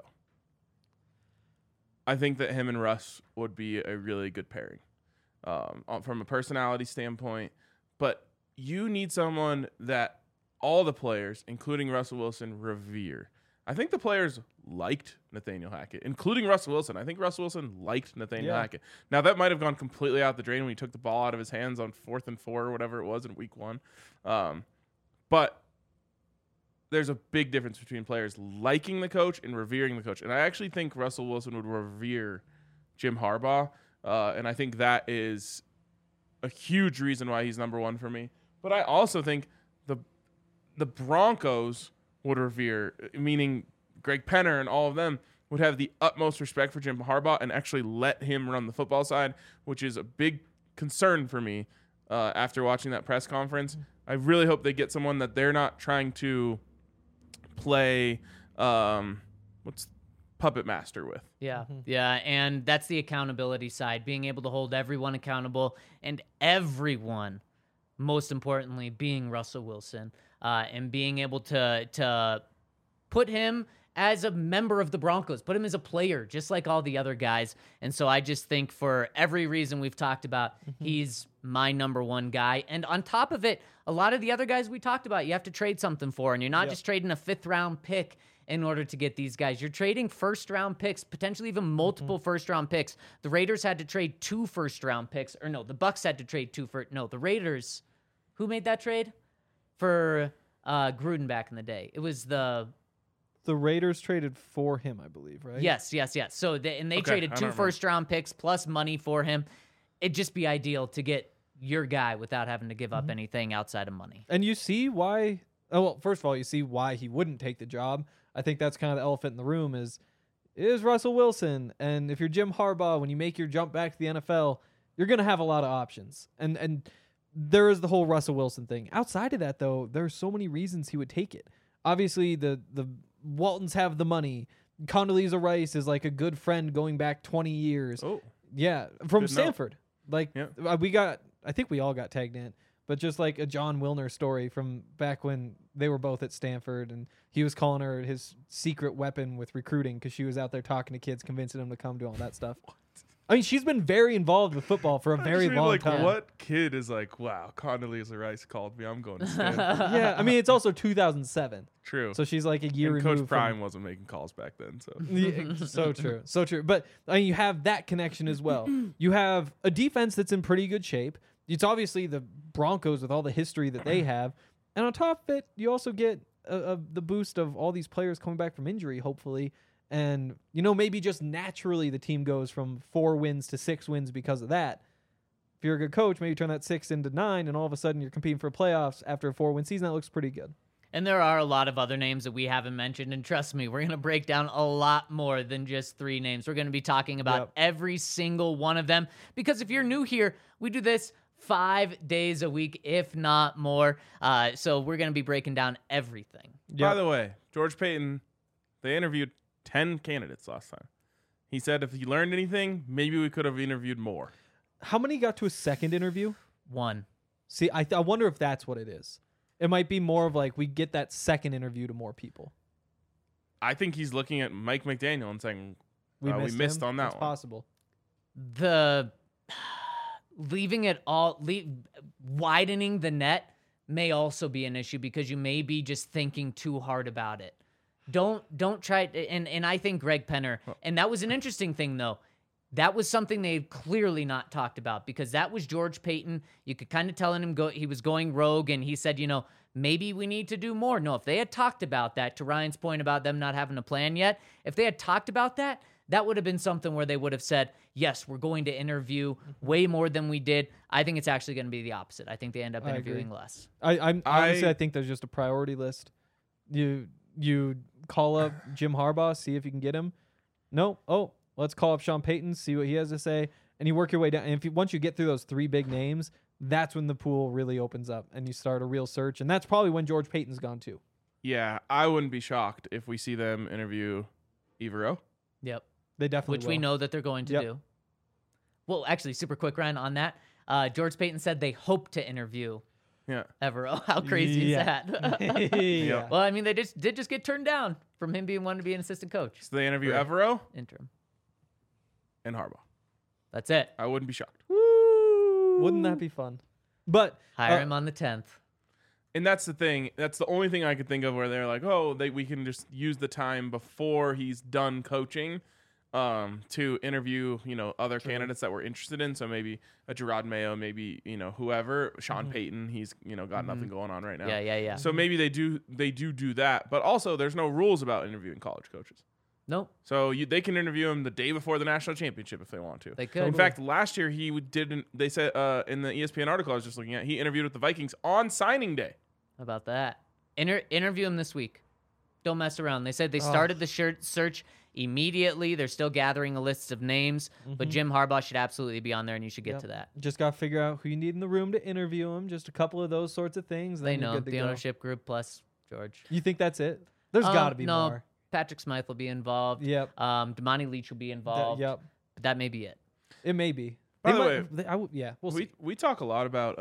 I think that him and Russ would be a really good pairing from a personality standpoint. But you need someone that all the players, including Russell Wilson, revere. I think the players liked Nathaniel Hackett, including Russell Wilson. I think Russell Wilson liked Nathaniel Hackett. Now, that might have gone completely out the drain when he took the ball out of his hands on 4th and 4 or whatever it was in week 1. But there's a big difference between players liking the coach and revering the coach. And I actually think Russell Wilson would revere Jim Harbaugh. And I think that is a huge reason why he's number 1 for me. But I also think the Broncos would revere, meaning Greg Penner and all of them would have the utmost respect for Jim Harbaugh and actually let him run the football side, which is a big concern for me after watching that press conference. I really hope they get someone that they're not trying to play puppet master with. Yeah, and that's the accountability side, being able to hold everyone accountable, and everyone, most importantly, being Russell Wilson. And being able to put him as a member of the Broncos, put him as a player, just like all the other guys. And so I just think for every reason we've talked about, he's my number 1 guy. And on top of it, a lot of the other guys we talked about, you have to trade something for. And you're not just trading a 5th-round pick in order to get these guys. You're trading first-round picks, potentially even multiple first-round picks. The Raiders had to trade 2 first-round picks. Or no, the Bucs had to trade 2 the Raiders. Who made that trade? For Gruden back in the day. It was the Raiders traded for him, I believe, right? Yes. So they traded 2 first-round picks plus money for him. It'd just be ideal to get your guy without having to give up anything outside of money. And you see why. Oh, well, first of all, you see why he wouldn't take the job. I think that's kind of the elephant in the room is Russell Wilson. And if you're Jim Harbaugh, when you make your jump back to the NFL, you're going to have a lot of options. And there is the whole Russell Wilson thing. Outside of that, though, there's so many reasons he would take it. Obviously, the Waltons have the money. Condoleezza Rice is like a good friend going back 20 years. Oh, Yeah, from Good note. Stanford. Like Yeah. I think we all got tagged in, but just like a John Wilner story from back when they were both at Stanford, and he was calling her his secret weapon with recruiting because she was out there talking to kids, convincing them to come to all that stuff. I mean, she's been very involved with football for a very long like, time. What kid is like, wow, Condoleezza Rice called me. I'm going to Stanford. Yeah, I mean, it's also 2007, True. so she's like a year and removed Coach Prime wasn't making calls back then, so Yeah, so true, so true. But I mean, you have that connection as well. You have a defense that's in pretty good shape. It's obviously the Broncos with all the history that they have, and on top of it, you also get the boost of all these players coming back from injury, hopefully. And maybe just naturally the team goes from 4 wins to 6 wins because of that. If you're a good coach, maybe turn that 6 into 9, and all of a sudden you're competing for playoffs after a 4-win season. That looks pretty good. And there are a lot of other names that we haven't mentioned. And trust me, we're going to break down a lot more than just 3 names. We're going to be talking about every single one of them. Because if you're new here, we do this 5 days a week, if not more. So we're going to be breaking down everything. By the way, George Payton, they interviewed 10 candidates last time. He said if he learned anything, maybe we could have interviewed more. How many got to a second interview? 1. See, I wonder if that's what it is. It might be more of like we get that second interview to more people. I think he's looking at Mike McDaniel and saying, We missed him. on that That's one. possible. The leaving it all, widening the net may also be an issue because you may be just thinking too hard about it. Don't try, and I think Greg Penner, and that was an interesting thing though. That was something they've clearly not talked about because that was George Payton. You could kind of tell him he was going rogue, and he said, maybe we need to do more. No, if they had talked about that, to Ryan's point about them not having a plan yet, if they had talked about that, that would have been something where they would have said, yes, we're going to interview way more than we did. I think it's actually going to be the opposite. I think they end up interviewing less. I think there's just a priority list. You call up Jim Harbaugh, see if you can get him. No, let's call up Sean Payton, see what he has to say, and you work your way down. And once you get through those 3 big names, that's when the pool really opens up and you start a real search. And that's probably when George Payton's gone too. Yeah, I wouldn't be shocked if we see them interview Evero. Yep. They definitely Which will. we know that they're going to do. Well, actually, super quick, Ryan, on that. George Payton said they hope to interview Yeah. Evero. How crazy is that? Yeah. Well, I mean, they did just get turned down from him being wanting to be an assistant coach. So they interview Right. Evero Interim. and Harbaugh. That's it. I wouldn't be shocked. Wouldn't that be fun? But Hire him on the 10th. And that's the thing. That's the only thing I could think of where they're like, we can just use the time before he's done coaching to interview, other candidates that we're interested in. So maybe a Gerard Mayo, maybe, whoever, Sean Payton, he's, got nothing going on right now. Yeah. So maybe they do that. But also there's no rules about interviewing college coaches. Nope. So they can interview him the day before the national championship if they want to. They could. In fact, last year he didn't. They said in the ESPN article I was just looking at, he interviewed with the Vikings on signing day. How about that? Interview him this week. Don't mess around. They said they started the search immediately. They're still gathering a list of names, but Jim Harbaugh should absolutely be on there, and you should get to that. just got to figure out who you need in the room to interview him. Just a couple of those sorts of things. They then you're know good to the go. ownership group plus George. You think that's it? There's got to be no, more. Patrick Smythe will be involved. Yep. Damani Leach will be involved. Yep. But that may be it. It may be. By They the might- way, yeah, we'll see. we talk a lot about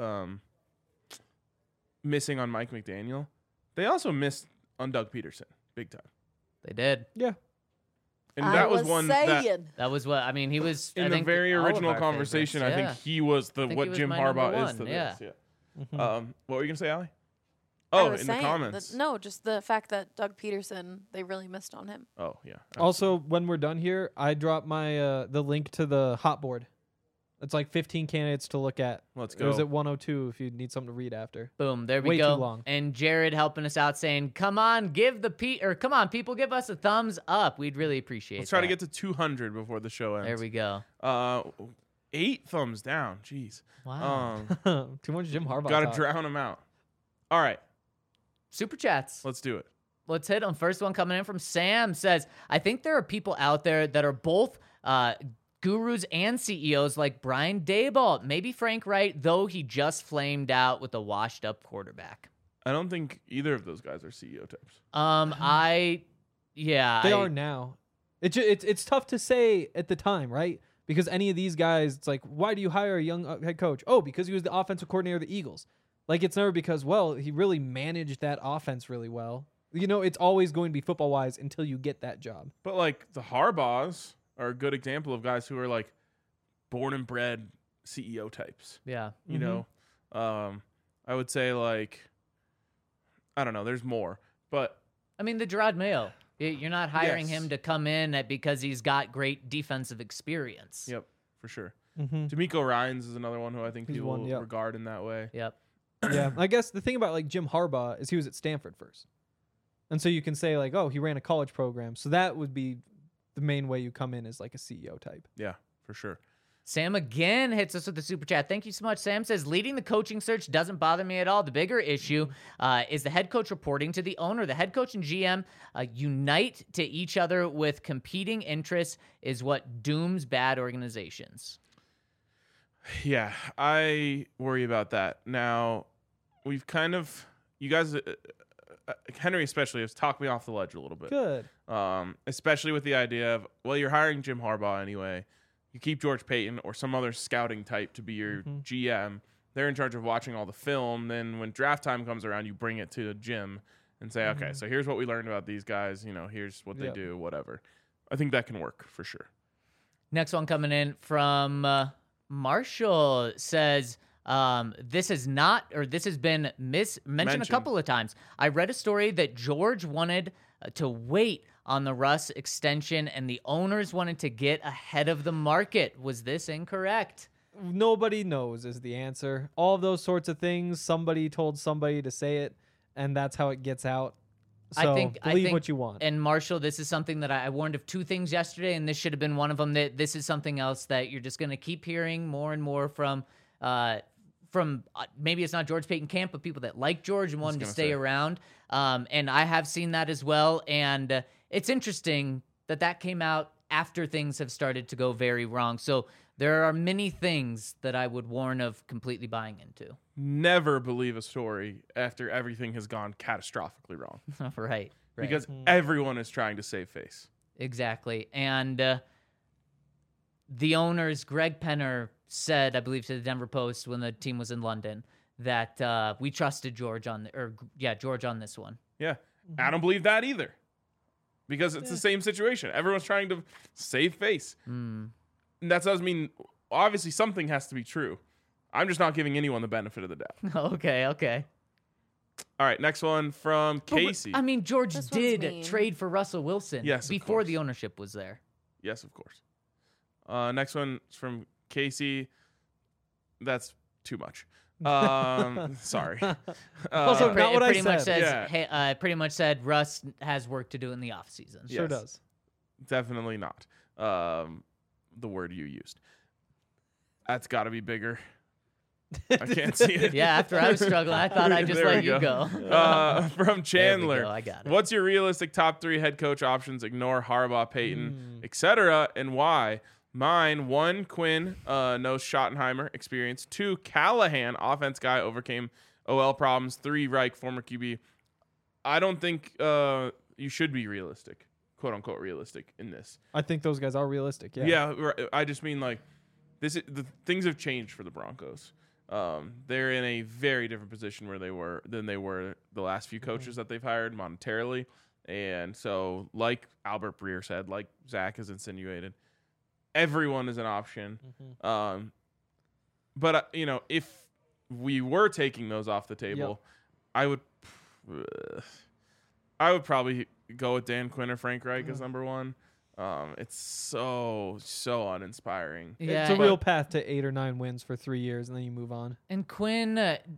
missing on Mike McDaniel. They also missed on Doug Peterson big time, They did. Yeah. and that was one that That was what I mean. He was in I the think, very all of original our conversation. favorites. I Yeah. think he was think he what was Jim my number Harbaugh is one, to yeah. this. Yeah. What were you gonna say, Allie? I Oh, was in the saying comments. just the fact that Doug Peterson, they really missed on him. Oh yeah. Also, when we're done here, I drop my the link to the hot board. It's like 15 candidates to look at. Let's It was go. at 102 if you need something to read after. Boom, there we Way go. too long. And Jared helping us out saying, "Come on, come on, people, give us a thumbs up. We'd really appreciate Let's try to that." get to 200 before the show ends. There we go. 8 thumbs down. Jeez. Wow. Too much Jim Harbaugh. Got to talk. drown them out. All right, Super chats. let's do it. Let's hit them. First one coming in from Sam says, I think there are people out there that are both gurus and CEOs like Brian Daboll, maybe Frank Wright, though he just flamed out with a washed up quarterback. I don't think either of those guys are CEO types. I Yeah, They are now. It's tough to say at the time, right? Because any of these guys, it's like, why do you hire a young head coach? Oh, because he was the offensive coordinator of the Eagles. Like, it's never because, well, he really managed that offense really well. You know, it's always going to be football-wise until you get that job. But, like, the Harbaughs are a good example of guys who are, like, born and bred CEO types. Yeah. You know? I would say, like, I don't know. There's more. But I mean, the Gerard Mayo. You're not hiring Yes. him to come in because he's got great defensive experience. Yep, for sure. Mm-hmm. D'Amico Ryans is another one who I think He's people one, yep. regard in that way. Yep. Yeah, I guess the thing about, like, Jim Harbaugh is he was at Stanford first. And so you can say, like, oh, he ran a college program. So that would be the main way you come in as, like, a CEO type. Yeah, for sure. Sam again hits us with the super chat. Thank you so much. Sam says, leading the coaching search doesn't bother me at all. The bigger issue is the head coach reporting to the owner. The head coach and GM unite to each other with competing interests is what dooms bad organizations. Yeah, I worry about that. Now, we've kind of, you guys, Henry especially, has talked me off the ledge a little bit. Good. Especially with the idea of, well, you're hiring Jim Harbaugh anyway. You keep George Payton or some other scouting type to be your GM. They're in charge of watching all the film. Then when draft time comes around, you bring it to Jim and say, okay, so here's what we learned about these guys. You know, here's what they do, whatever. I think that can work for sure. Next one coming in from Marshall says, this has been mentioned a couple of times. I read a story that George wanted to wait on the Russ extension and the owners wanted to get ahead of the market. Was this incorrect? Nobody knows is the answer. All of those sorts of things, somebody told somebody to say it, and that's how it gets out. So I think believe what you want. And Marshall, this is something that I warned of two things yesterday, and this should have been one of them. That this is something else that you're just going to keep hearing more and more from maybe it's not George Payton camp, but people that like George and want him to stay around. And I have seen that as well. And it's interesting that came out after things have started to go very wrong. So there are many things that I would warn of completely buying into. Never believe a story after everything has gone catastrophically wrong. Right. Because everyone is trying to save face. Exactly. And the owners, Greg Penner, said, I believe, to the Denver Post when the team was in London, that we trusted George on this one. Yeah. I don't believe that either. Because it's the same situation. Everyone's trying to save face. And that does mean, obviously, something has to be true. I'm just not giving anyone the benefit of the doubt. Okay. All right, next one from Casey. I mean, George This one's did mean. trade for Russell Wilson before course. the ownership was there. Yes, of course. Next one is from Casey. That's too much. Sorry. Also, not what I pretty much said. says, hey, pretty much said Russ has work to do in the offseason. Sure Yes. does. Definitely not. The word you used. That's got to be bigger. I can't see it. Yeah, after I was struggling, I thought I'd just There let we you go. From Chandler. go, I got it. What's your realistic top 3 head coach options? Ignore Harbaugh, Payton, etc. And why? Mine, 1, Quinn, knows Schottenheimer experience. 2, Callahan, offense guy, overcame OL problems. 3, Reich, former QB. I don't think you should be realistic, quote unquote realistic in this. I think those guys are realistic. Yeah. Yeah, I just mean like the things have changed for the Broncos. They're in a very different position than they were the last few coaches that they've hired monetarily. And so, like Albert Breer said, like Zach has insinuated, everyone is an option. But if we were taking those off the table, I would probably go with Dan Quinn or Frank Reich as number 1. It's so uninspiring. Yeah, It's a real path to 8 or 9 wins for 3 years, and then you move on. And Quinn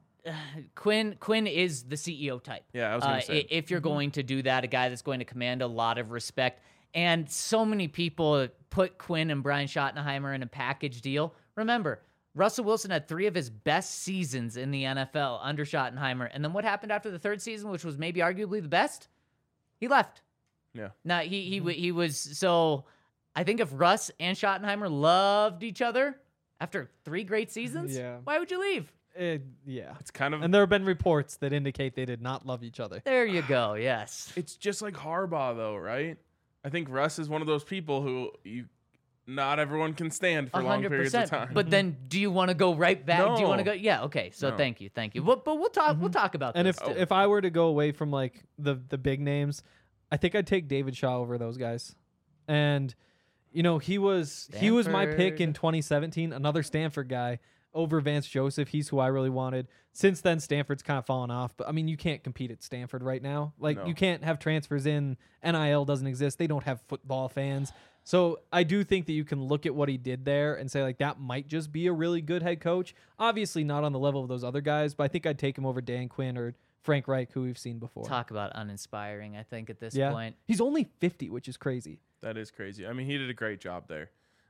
is the CEO type. Yeah, I was going to say. If you're going to do that, a guy that's going to command a lot of respect. And so many people put Quinn and Brian Schottenheimer in a package deal. Remember, Russell Wilson had 3 of his best seasons in the NFL under Schottenheimer. And then what happened after the 3rd season, which was maybe arguably the best? He left. Yeah. Now, he was, so I think if Russ and Schottenheimer loved each other after 3 great seasons, Yeah. why would you leave? Yeah. It's kind of And there have been reports that indicate they did not love each other. There you go. Yes. it's just like Harbaugh though, right? I think Russ is one of those people who not everyone can stand for long periods of time. But then, do you want to go right back? Do you want to No. go? Yeah. Okay. So No. thank you. But we'll talk. We'll talk about And this. if I were to go away from like the big names, I think I'd take David Shaw over those guys. And he was my pick in Stanford. 2017, another Stanford guy over Vance Joseph. He's who I really wanted. Since then, Stanford's kind of fallen off. But I mean, you can't compete at Stanford right now. Like No. you can't have transfers in. NIL doesn't exist. They don't have football fans. So I do think that you can look at what he did there and say like that might just be a really good head coach. Obviously not on the level of those other guys, but I think I'd take him over Dan Quinn or Frank Reich, who we've seen before. talk about uninspiring, I think at this Yeah, point. he's only 50, which is crazy. That is crazy. I mean, he did a great job there.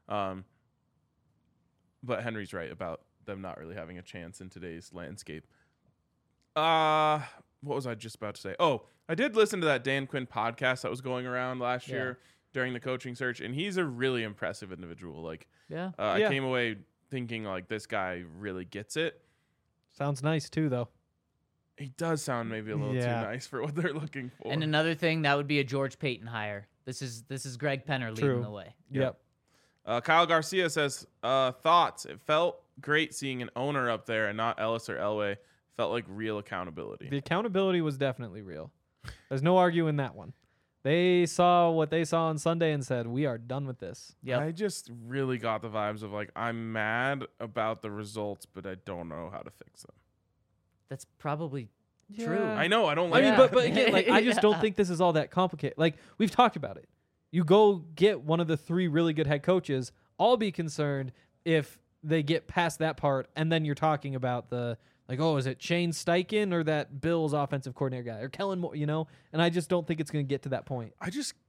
But Henry's right about them not really having a chance in today's landscape. What was I just about to say? Oh, I did listen to that Dan Quinn podcast that was going around last year during the coaching search, and he's a really impressive individual. Like, Yeah. I Yeah. came away thinking like this guy really gets it. Sounds nice too, though. He does sound maybe a little Yeah. too nice for what they're looking for. And another thing that would be a George Payton hire. This is Greg Penner leading True. the way. Yep. Kyle Garcia says, thoughts. It felt great seeing an owner up there and not Ellis or Elway. Felt like real accountability. The accountability was definitely real. There's no arguing that one. They saw what they saw on Sunday and said, "We are done with this." Yep. I just really got the vibes of like, I'm mad about the results, but I don't know how to fix them. That's probably true. Yeah. I know I don't I like mean, it. but again, like I just Yeah. don't think this is all that complicated. Like we've talked about it. You go get one of the 3 really good head coaches. I'll be concerned if they get past that part, and then you're talking about the like, oh, is it Shane Steichen or that Bills offensive coordinator guy or Kellen Moore? And I just don't think it's going to get to that point.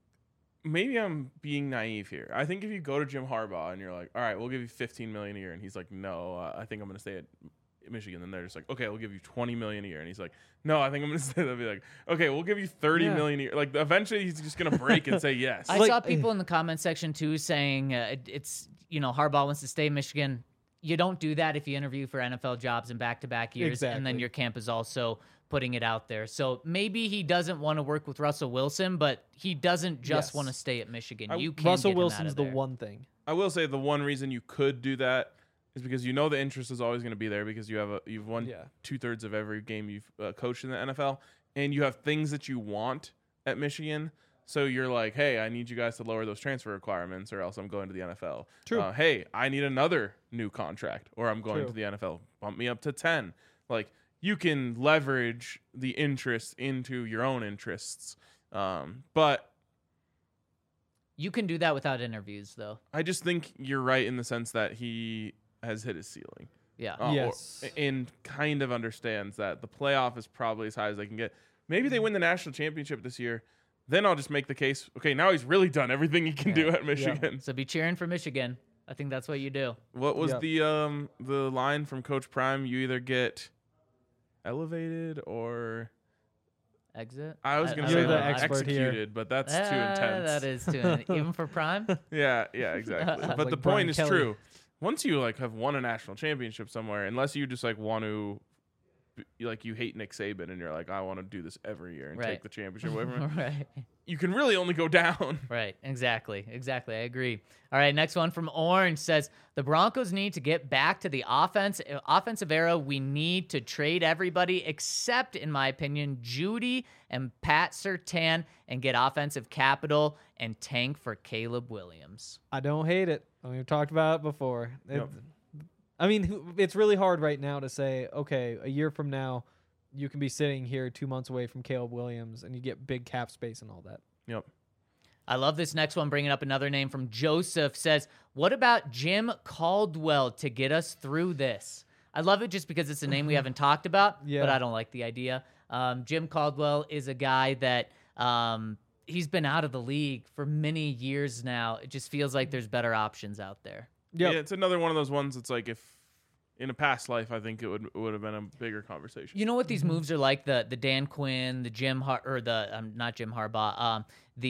Maybe I'm being naive here. I think if you go to Jim Harbaugh and you're like, all right, we'll give you $15 million a year, and he's like, no, I think I'm going to stay at Michigan. Then they're just like, okay, we'll give you $20 million a year, and he's like, no, I think I'm going to stay. They'll be like, okay, we'll give you $30 million a year. Like eventually, he's just going to break and say yes. I Like- saw people in the comment section too saying it's Harbaugh wants to stay in Michigan. You don't do that if you interview for NFL jobs in back-to-back years, and then Exactly. your camp is also putting it out there. So maybe he doesn't want to work with Russell Wilson, but he doesn't just Yes. want to stay at Michigan. You can't Russell get him out Wilson's of the there. one thing. I will say the one reason you could do that is because the interest is always going to be there because you've won Yeah. 2/3 of every game you've coached in the NFL, and you have things that you want at Michigan. So you're like, hey, I need you guys to lower those transfer requirements, or else I'm going to the NFL. True. Hey, I need another new contract, or I'm going True. to the NFL. Bump me up to 10. Like you can leverage the interest into your own interests, but You can do that without interviews, though. I just think you're right in the sense that he has hit his ceiling. Yeah. Yes. And kind of understands that the playoff is probably as high as they can get. Maybe they win the national championship this year. Then I'll just make the case, okay, now he's really done everything he can do at Michigan. So be cheering for Michigan. I think that's what you do. What was Yep. the line from Coach Prime? You either get elevated or Exit. I was going to don't say You're the know. expert here. executed, but that's too intense. That is too even for Prime. Yeah, exactly. But like the Brian point is Kelly. true. Once you like have won a national championship somewhere, unless you just like want to, like you hate Nick Saban and you're like, I want to do this every year and Right. take the championship away from him, Right. you can really only go down. Right. Exactly. I agree. All right. Next one from Orange says the Broncos need to get back to the offensive era. We need to trade everybody except, in my opinion, Judy and Pat Surtain and get offensive capital and tank for Caleb Williams. I don't hate it. We've talked about it before. Yep. I mean, it's really hard right now to say, okay, a year from now, you can be sitting here 2 months away from Caleb Williams and you get big cap space and all that. Yep. I love this next one, bringing up another name from Joseph. Says, what about Jim Caldwell to get us through this? I love it just because it's a name we haven't talked about, Yeah. but I don't like the idea. Jim Caldwell is a guy that he's been out of the league for many years now. It just feels like there's better options out there. Yep. Yeah, it's another one of those ones that's like if in a past life, I think it would have been a bigger conversation. You know what these moves are like? The Dan Quinn, the Jim not Jim Harbaugh,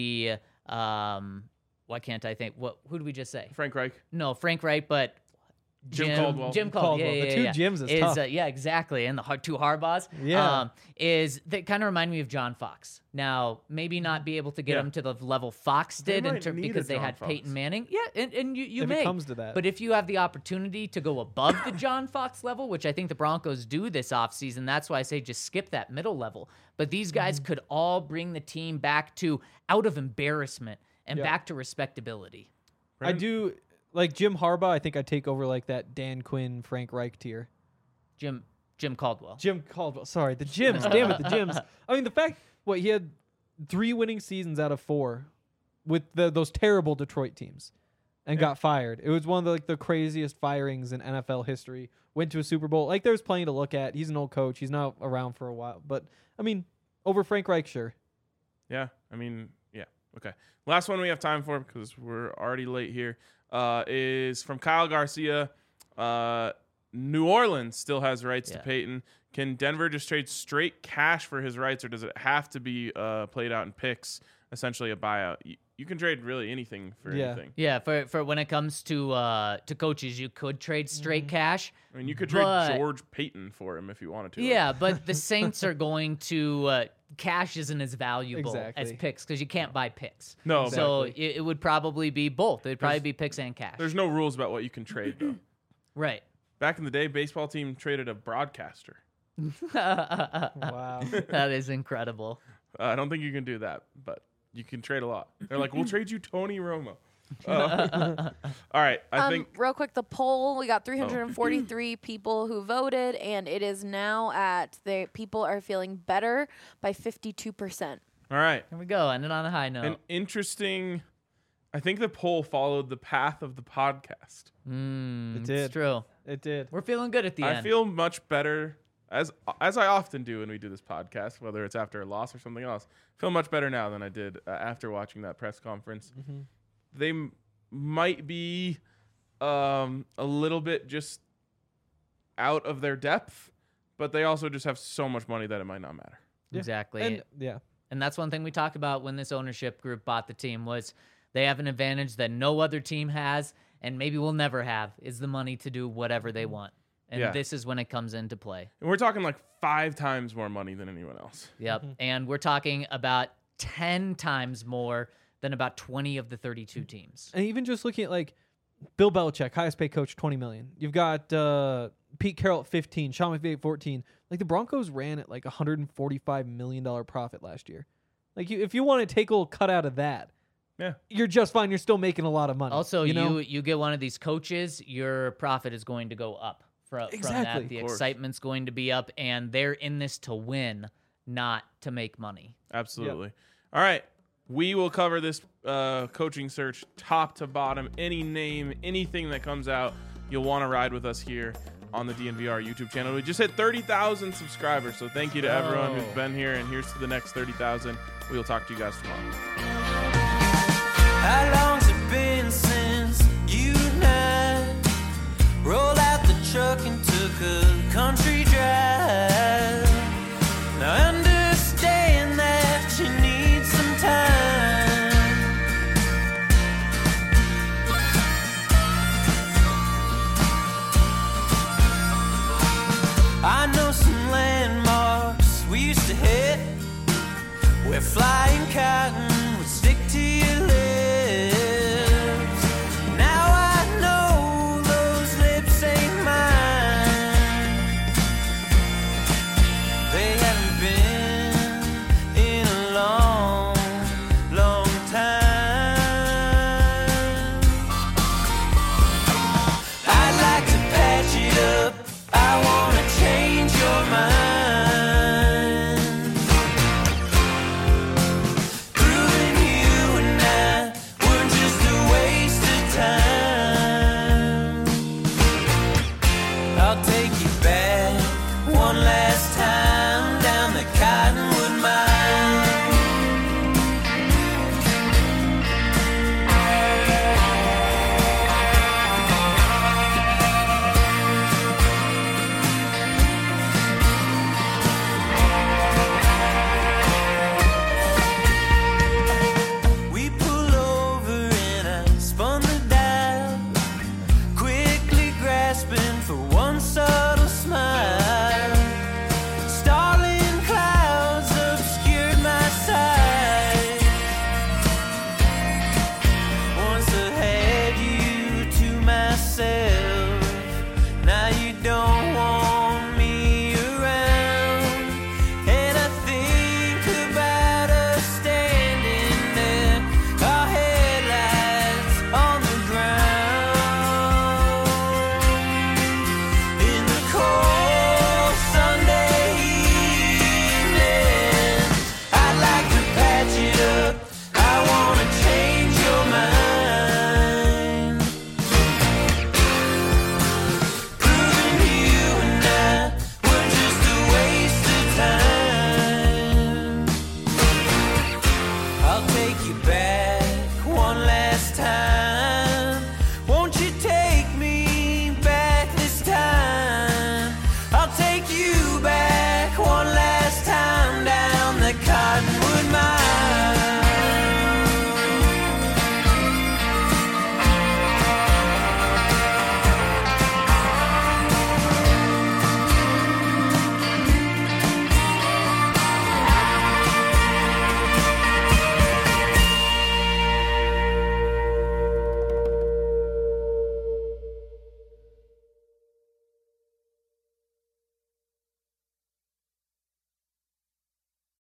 why can't I think? Who did we just say? Frank Reich. No, Frank Reich, but Jim Caldwell. Jim Caldwell. Caldwell. Yeah, The yeah, two yeah. Jims is tough. Yeah, exactly. And the two Harbaughs. Yeah. Is that kind of remind me of John Fox. Now, maybe not be able to get him to the level Fox They did might need a because they John had Fox. Peyton Manning. Yeah, and you If it may. comes to that. But if you have the opportunity to go above the John Fox level, which I think the Broncos do this offseason, that's why I say just skip that middle level. But these guys could all bring the team back to out of embarrassment and Yeah. back to respectability. I do like Jim Harbaugh. I think I take over like that Dan Quinn, Frank Reich tier. Jim Caldwell. Jim Caldwell. Sorry, the Jims. Damn it, the Jims. I mean, the fact he had 3 winning seasons out of 4 with those terrible Detroit teams, and got fired. It was one of the craziest firings in NFL history. Went to a Super Bowl. Like, there's plenty to look at. He's an old coach. He's not around for a while, but I mean, over Frank Reich, sure. Yeah, I mean, yeah. Okay. Last one we have time for because we're already late here is from Kyle Garcia. New Orleans still has rights to Peyton. Can Denver just trade straight cash for his rights, or does it have to be played out in picks, essentially a buyout? You can trade really anything for anything. Yeah, for when it comes to coaches, you could trade straight cash. I mean, you could trade George Payton for him if you wanted to. Yeah, but the Saints are going to cash isn't as valuable as Exactly. picks because you can't buy picks. No, So it would probably be both. It would probably be picks and cash. There's no rules about what you can trade, though. Right. Back in the day, baseball team traded a broadcaster. Wow. That is incredible. I don't think you can do that, but you can trade a lot. They're like, we'll trade you Tony Romo. All right, I think real quick, the poll, we got 343 people who voted, and it is now at the people are feeling better by 52%. all right. Here we go. Ended on a high note. An interesting. I think the poll followed the path of the podcast. It It's did. true. It did. We're feeling good at the I end. feel much better as I often do when we do this podcast, whether it's after a loss or something else. I feel much better now than I did after watching that press conference. They might be a little bit just out of their depth, but they also just have so much money that it might not matter. Exactly. And yeah. And that's one thing we talked about when this ownership group bought the team was they have an advantage that no other team has and maybe will never have is the money to do whatever they want. And Yeah. this is when it comes into play. And we're talking like 5 times more money than anyone else. Yep. And we're talking about 10 times more than about 20 of the 32 teams. And even just looking at like Bill Belichick, highest paid coach, $20 million. You've got Pete Carroll at 15, Sean McVay at 14. Like the Broncos ran at like $145 million profit last year. Like if you want to take a little cut out of that, Yeah. you're just fine. You're still making a lot of money. Also, you know? you get one of these coaches, your profit is going to go up from Exactly. that. The Of course. excitement's going to be up, and they're in this to win, not to make money. Absolutely. All right. We will cover this coaching search top to bottom. Any name, anything that comes out, you'll want to ride with us here on the DNVR YouTube channel. We just hit 30,000 subscribers, so thank you to everyone who's been here, and here's to the next 30,000. We will talk to you guys tomorrow. How long's it been since you and I rolled out the truck and took a country drive? Now I understand that you need some time. I know some landmarks we used to hit where flying cotton would stick to your lips. Now I know those lips ain't mine. They haven't been in a long, long time. I'd like to patch it up. I wanna change your mind. Proving you and I were just a waste of time. I'll take you back one last time.